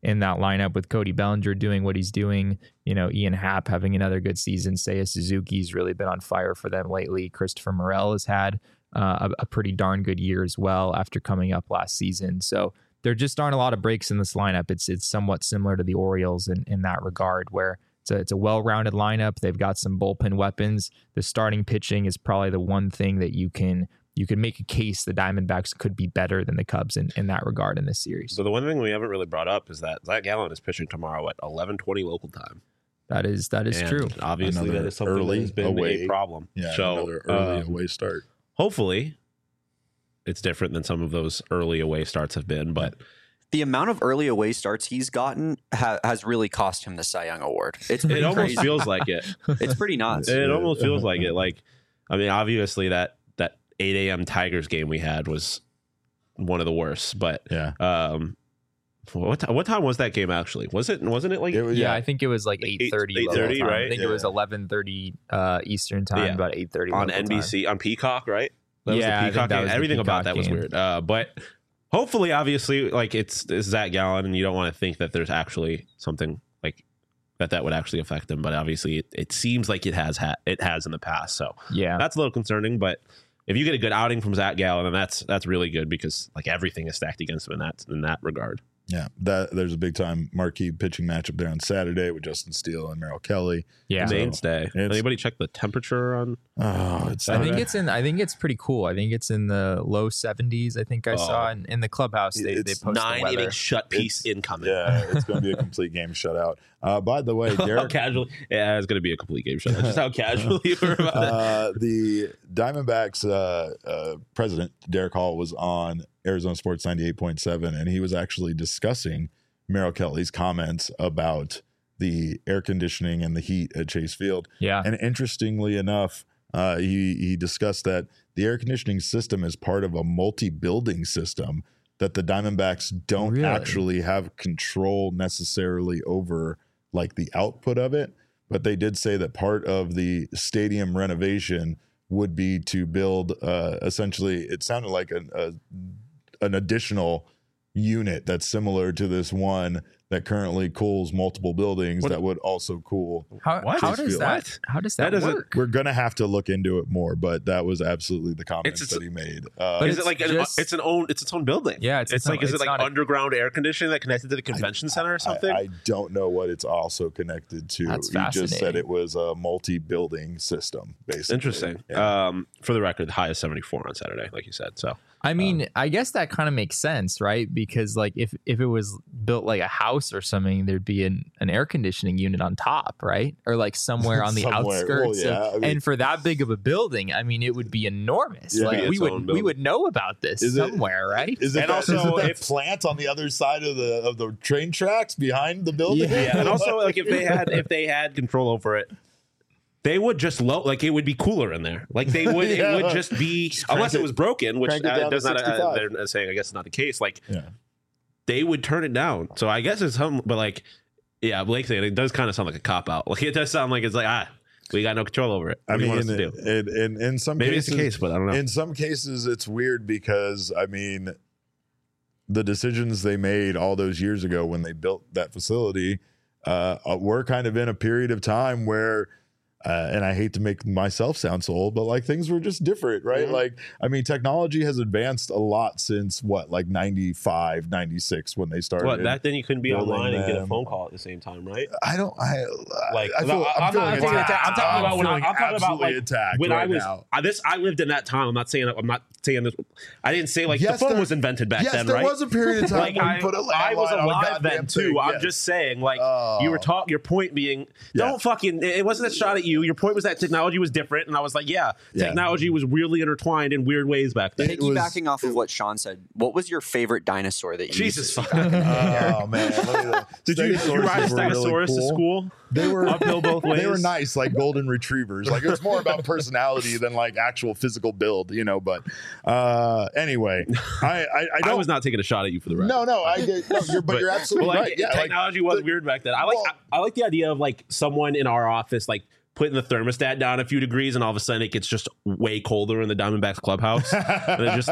in that lineup with Cody Bellinger doing what he's doing. You know, Ian Happ having another good season. Seiya Suzuki's really been on fire for them lately. Christopher Morel has had a pretty darn good year as well after coming up last season. So there just aren't a lot of breaks in this lineup. It's somewhat similar to the Orioles in that regard, where it's a well-rounded lineup. They've got some bullpen weapons. The starting pitching is probably the one thing that you can make a case the Diamondbacks could be better than the Cubs in that regard in this series. So the one thing we haven't really brought up is that Zach Gallen is pitching tomorrow at 11:20 local time. That is true. Obviously, that is something that has been a problem. Yeah, so another early away start. Hopefully, it's different than some of those early away starts have been, but the amount of early away starts he's gotten has really cost him the Cy Young Award. It almost feels like it. It's pretty nuts. It almost feels like it. Like, I mean, obviously that 8 a.m. Tigers game we had was one of the worst, but yeah. What time was that game actually? Wasn't it like? I think it was like 8:30. 8:30, right? I think it was 11:30 Eastern time, about 8:30 on NBC time. On Peacock, right? That was the Peacock game. Everything Peacock about that was game. weird. But hopefully, obviously, like it's Zach Gallen, and you don't want to think that there's actually something like that would actually affect him. But obviously, it seems like it has in the past. So yeah, that's a little concerning. But if you get a good outing from Zach Gallen, then that's really good, because like everything is stacked against him in that regard. Yeah, there's a big time marquee pitching matchup there on Saturday with Justin Steele and Merrill Kelly. Yeah, mainstay. Anybody check the temperature on? Oh, I think it's pretty cool. I think it's in the low 70s. I think I saw in the clubhouse they post 9-inning shut piece incoming. Yeah, it's going to be a complete game shutout. By the way, Derek, casually, yeah, it's going to be a complete game shutout. Just how casual you were about it. The Diamondbacks president Derek Hall was on Arizona Sports 98.7, and he was actually discussing Merrill Kelly's comments about the air conditioning and the heat at Chase Field. Yeah. And interestingly enough, he discussed that the air conditioning system is part of a multi-building system that the Diamondbacks don't actually have control necessarily over, like the output of it. But they did say that part of the stadium renovation would be to build essentially, it sounded like an additional unit that's similar to this one that currently cools multiple buildings that would also cool. How does that work? We're gonna have to look into it more, but that was absolutely the comments that he made. But is it like it's its own building? Yeah, is it like underground air conditioning that connected to the convention center or something? I don't know what it's also connected to. That's he just said fascinating. it was a multi-building system, basically. Interesting. Yeah. For the record, the high is 74 on Saturday, like you said. So I mean, I guess that kind of makes sense, right? Because like if it was built like a house or something, there'd be an air conditioning unit on top, right? Or like somewhere on the outskirts. Well, yeah. I mean, and for that big of a building, I mean, it would be enormous. Yeah. Like we would know about this somewhere, right? Is it and also also that plant on the other side of the train tracks behind the building? Yeah, and also like if they had control over it, they would just it would be cooler in there. Like they would, it would just be, unless it was broken, which does not. They're saying, I guess, it's not the case. Like they would turn it down. So I guess it's something, but like, yeah, Blake saying it does kind of sound like a cop out. Like it does sound like it's like we got no control over it. What do you want us to do? In some maybe cases, it's the case, but I don't know. In some cases, it's weird because I mean, the decisions they made all those years ago when they built that facility were kind of in a period of time where. And I hate to make myself sound so old, but like things were just different, right? Mm-hmm. Like, I mean, technology has advanced a lot since like 95, 96 when they started. Well, back then you couldn't be online and get a phone call at the same time, right? I'm talking about when I was now. I lived in that time. I'm not saying this. I didn't say like the phone was invented back then, right? Yes, there was a period of time like when you put a I was landline on a alive then goddamn too. thing. I'm Yes. just saying, like you were your point being, don't fucking. It wasn't a shot at you. Your point was that technology was different, and I was like, technology was weirdly intertwined in weird ways back then. Piggybacking off of what Sean said, what was your favorite dinosaur that you Jesus used fucking. Oh man! Did you ride Stegosaurus to school? They were uphill both ways. They were nice, like golden retrievers. Like it was more about personality than like actual physical build, you know. But anyway, I was not taking a shot at you for the record. No, I get. No, but you're absolutely right. Yeah, technology was weird back then. I like the idea of like someone in our office like putting the thermostat down a few degrees, and all of a sudden it gets just way colder in the Diamondbacks clubhouse. And it's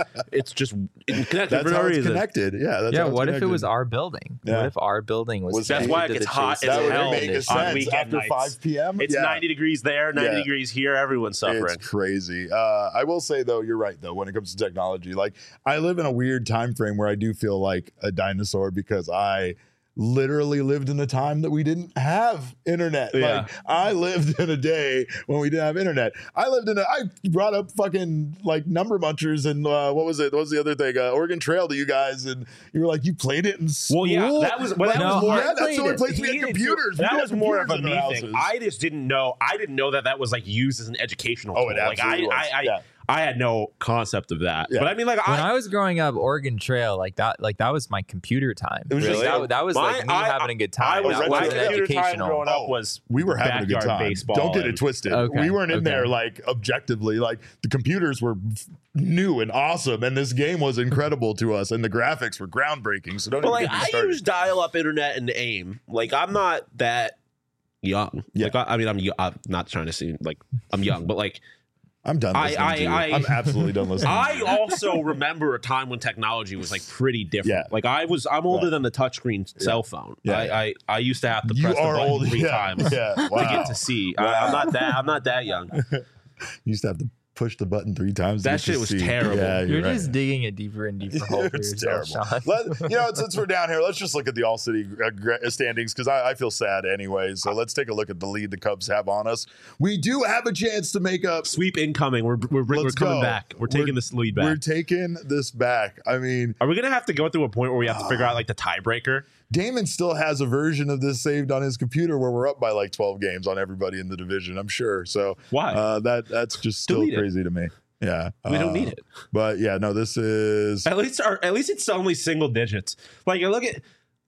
just connected. That's how it's connected. Yeah. Yeah. What if it was our building? Yeah. What if our building was? That's why it gets hot as hell on weekend after 5 p.m. It's 90 degrees there, 90 degrees here. Everyone's suffering. It's crazy. I will say though, you're right though. When it comes to technology, like I live in a weird time frame where I do feel like a dinosaur because I literally lived in a time that we didn't have internet. Yeah. Like I lived in a day when we didn't have internet. I brought up fucking like Number Munchers and what was the other thing? Oregon Trail to you guys, and you were like, you played it in school. Well, yeah, that was more. That's the only place we had computers. That was more of a me thing. I just didn't know. I didn't know that was like used as an educational tool. It absolutely was. I had no concept of that. Yeah. But I mean, like when I was growing up, Oregon Trail, like that was my computer time. It was really? That was like me having a good time. My computer time growing up was we were having a good time. Baseball. Don't get it twisted. Okay. We weren't in there like objectively. Like the computers were new and awesome, and this game was incredible to us, and the graphics were groundbreaking. So don't. But like I use dial-up internet and AIM. Like I'm not that young. Yeah. Like I'm not trying to seem like I'm young, but like. I'm done listening to you. I'm absolutely done listening. I also remember a time when technology was like pretty different. Yeah. Like I'm older than the touchscreen cell phone. Yeah. I used to have to press the button 3 times to get to see. Wow. I'm not that young. You used to have to push the button 3 times. That shit was terrible. Yeah, you're just digging a deeper and deeper hole for yourself, Sean. Since we're down here, let's just look at the All-City standings because I feel sad anyway. So let's take a look at the lead the Cubs have on us. We do have a chance to make up. Sweep incoming. We're coming back. We're taking this lead back. We're taking this back. I mean, are we going to have to go through a point where we have to figure out like the tiebreaker? Damon still has a version of this saved on his computer where we're up by like 12 games on everybody in the division, I'm sure. So why? That's just still crazy to me. Yeah. We don't need it. But yeah, no, this is at least it's only single digits. Like I look at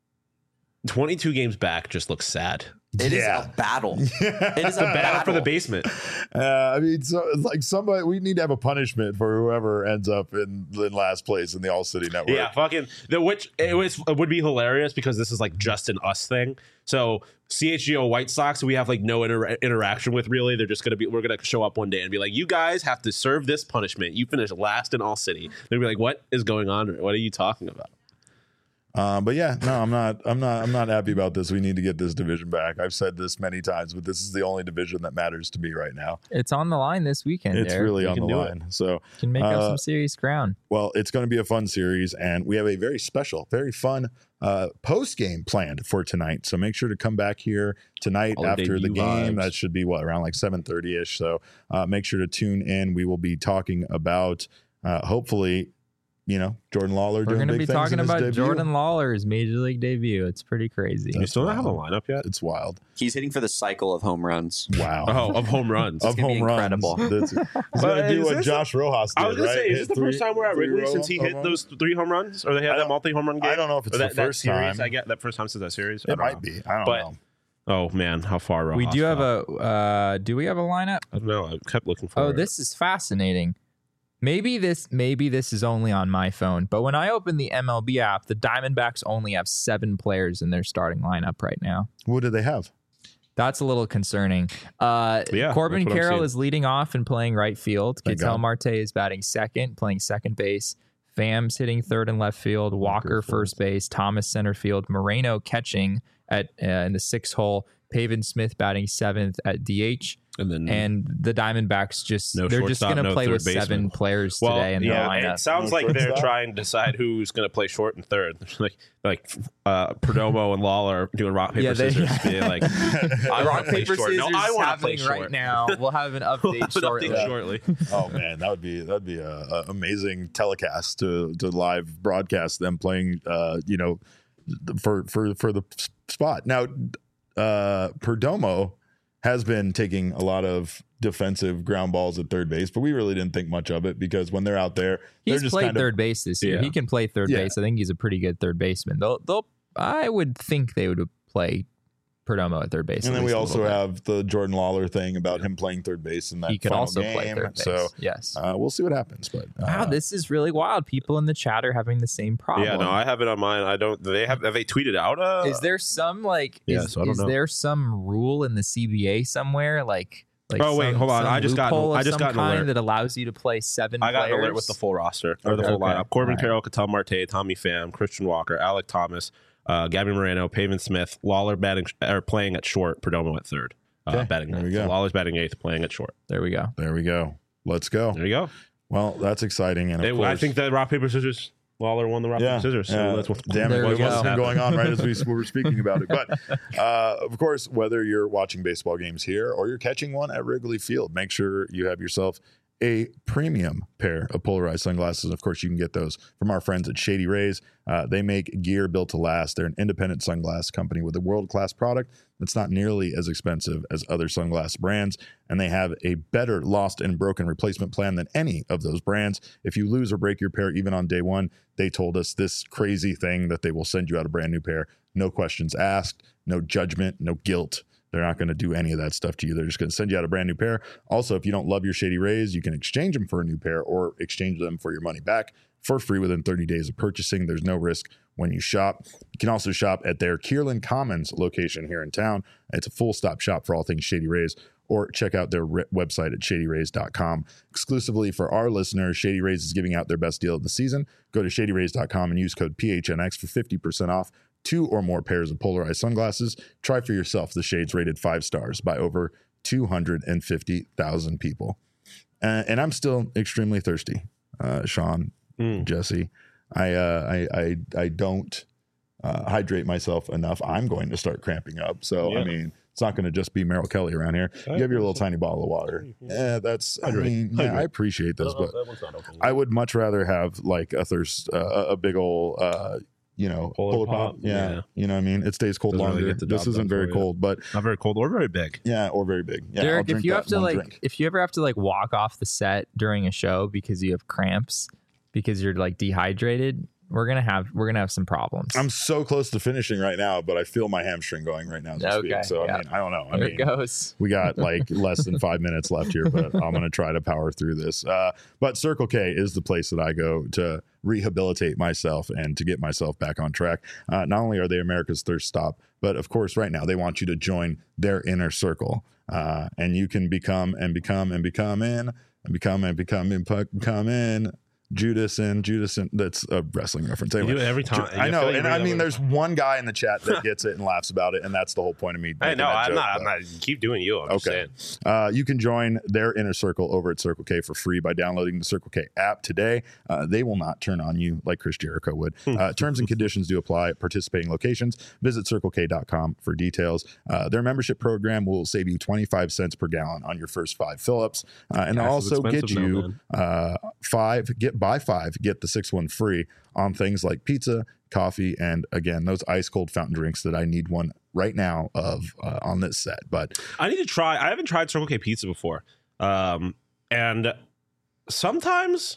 22 games back just looks sad. It is a battle. It is a battle for the basement. I mean, so like somebody, we need to have a punishment for whoever ends up in last place in the All-City Network. Yeah, fucking it would be hilarious because this is like just an us thing. So CHGO White Sox, we have like no interaction with really. They're just we're gonna show up one day and be like, you guys have to serve this punishment. You finished last in All-City. They'll be like, what is going on? What are you talking about? But yeah, no, I'm not happy about this. We need to get this division back. I've said this many times, but this is the only division that matters to me right now. It's on the line this weekend. It's really on the line. So can make up some serious ground. Well, it's going to be a fun series, and we have a very special, very fun post game planned for tonight. So make sure to come back here tonight after the game. That should be around like 7:30 ish. So make sure to tune in. We will be talking about hopefully. Jordan Lawler. We're going to be talking about Jordan Lawler's major league debut. It's pretty crazy. You still don't have a lineup yet? It's wild. He's hitting for the cycle of home runs. Wow. Oh, of home runs. Of home runs. Incredible. He's going to do what Josh Rojas did, I was going to say, is this the first time we're at Wrigley since he hit those 3 home runs? Or they had that multi-home run game? I don't know if it's the first time. I get that first time since that series. It might be. I don't know. Oh, man. How far Rojas We do have do we have a lineup? I don't know. I kept looking for it. Oh, this is fascinating. Maybe this is only on my phone, but when I open the MLB app, the Diamondbacks only have 7 players in their starting lineup right now. What do they have? That's a little concerning. Corbin Carroll is leading off and playing right field. Ketel Marte is batting second, playing second base. Pham's hitting third and left field. Walker first base. Thomas center field. Moreno catching at in the 6th hole. Pavin Smith batting 7th at DH. And the Diamondbacks they're just going to play with 7 players today in the lineup. It sounds like they're trying to decide who's going to play short and third. like Perdomo and Lawler doing rock paper scissors. Like rock paper scissors I want to play short right now. We'll have an update shortly. Oh man, that'd be a amazing telecast to live broadcast them playing. For the spot now. Perdomo has been taking a lot of defensive ground balls at third base, but we really didn't think much of it because when they're out there, he's played third base this year. He can play third base. I think he's a pretty good third baseman. I would think they would play Perdomo at third base. And then we also have the Jordan Lawler thing about him playing third base in that he could final also game. play third base. So yes, we'll see what happens. But wow, this is really wild. People in the chat are having the same problem. Yeah, no, I have it on mine. I don't. Have they tweeted out? Is there some is there some rule in the CBA somewhere like? Oh wait, hold on. I just got an alert that allows you to play 7 players. I got an alert with the full roster or the full lineup. Corbin Carroll, Ketel Marte, Tommy Pham, Christian Walker, Alec Thomas, Gabby Moreno, Pavin Smith, Lawler playing at short, Perdomo at third. Batting there we ninth. go. So Lawler's batting eighth, playing at short. There we go. Let's go. There you go. Well, that's exciting. And of course, I think that rock paper scissors. Lawler won the rock paper scissors. So that's what. Damn it! What was going on right as we were speaking about it? But of course, whether you're watching baseball games here or you're catching one at Wrigley Field, make sure you have yourself a premium pair of polarized sunglasses. Of course, you can get those from our friends at Shady Rays. They make gear built to last. They're an independent sunglass company with a world-class product that's not nearly as expensive as other sunglass brands, and they have a better lost and broken replacement plan than any of those brands. If you lose or break your pair even on day one, they told us this crazy thing that they will send you out a brand new pair. No questions asked, no judgment, no guilt. They're not going to do any of that stuff to you. They're just going to send you out a brand new pair. Also, if you don't love your Shady Rays, you can exchange them for a new pair or exchange them for your money back for free within 30 days of purchasing. There's no risk when you shop. You can also shop at their Kierland Commons location here in town. It's a full-stop shop for all things Shady Rays, or check out their website at shadyrays.com. Exclusively for our listeners, Shady Rays is giving out their best deal of the season. Go to shadyrays.com and use code PHNX for 50% off 2 or more pairs of polarized sunglasses. Try for yourself the shades rated 5 stars by over 250,000 people. And I'm still extremely thirsty, Sean, Jesse. I don't hydrate myself enough. I'm going to start cramping up. So, I mean, it's not going to just be Merrill Kelly around here. You have your little tiny bottle of water. Yeah, I appreciate this, but I would much rather have like a big old, Polar Pop. Yeah. You know what I mean? It stays cold longer. Really this isn't very cold, but not very cold or very big. Yeah, or very big. Yeah, Derek, if you ever have to walk off the set during a show because you have cramps because you're dehydrated, we're gonna have some problems. I'm so close to finishing right now, but I feel my hamstring going right now as we speak. So I mean, I don't know. There it goes. We got less than 5 minutes left here, but I'm gonna try to power through this. But Circle K is the place that I go to rehabilitate myself and to get myself back on track. Not only are they America's thirst stop, but of course, right now they want you to join their inner circle, and you can become Judas and that's a wrestling reference. Anyway, you do it every time. I know, and I mean, there's one guy in the chat that gets it and laughs about it, and that's the whole point of me. I know, I'm not. Keep doing you. I'm okay. Just saying. You can join their inner circle over at Circle K for free by downloading the Circle K app today. They will not turn on you like Chris Jericho would. Terms and conditions do apply at participating locations. Visit CircleK.com for details. Their membership program will save you 25 cents per gallon on your first 5 fill-ups, and they'll also get you buy 5, get the 6th one free on things like pizza, coffee, and again, those ice cold fountain drinks that I need one right now on this set. But I need to try. I haven't tried Circle K pizza before, and sometimes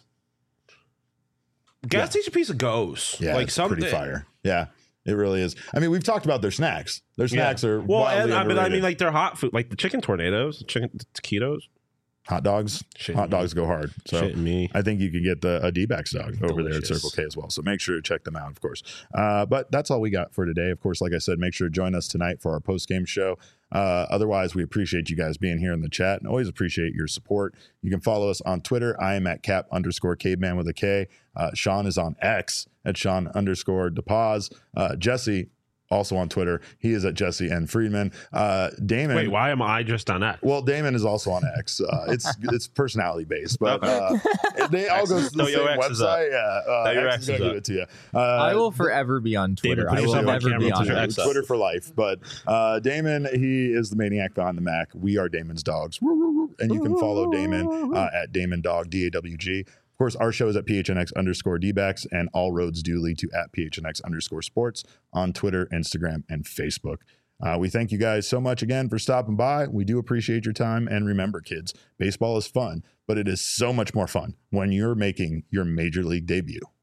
gas station pizza goes. Yeah, it's pretty fire. Yeah. It really is. I mean, we've talked about their snacks. Their snacks are wildly underrated. But I mean, like their hot food, like the chicken tornadoes, chicken taquitos. Hot dogs go hard. So I think you can get a D-backs dog over there at Circle K as well. So make sure to check them out, of course. But that's all we got for today. Of course, like I said, make sure to join us tonight for our post-game show. Otherwise, we appreciate you guys being here in the chat and always appreciate your support. You can follow us on Twitter. I am at Cap_caveman with a K. Sean is on X at Sean_DePaz. Jesse, also on Twitter, he is at Jesse N. Friedman. Damon. Wait, why am I just on X? Well, Damon is also on X. It's personality based, but they all go to the same website. Yeah, X is gonna give it to you. I will forever be on Twitter. I will never be on Twitter for life. But Damon, he is the maniac behind the Mac. We are Damon's dogs, and you can follow Damon at Damon Dog DAWG. Of course, our show is at PHNX_DBacks, and all roads do lead to at PHNX_sports on Twitter, Instagram, and Facebook. We thank you guys so much again for stopping by. We do appreciate your time. And remember, kids, baseball is fun, but it is so much more fun when you're making your major league debut.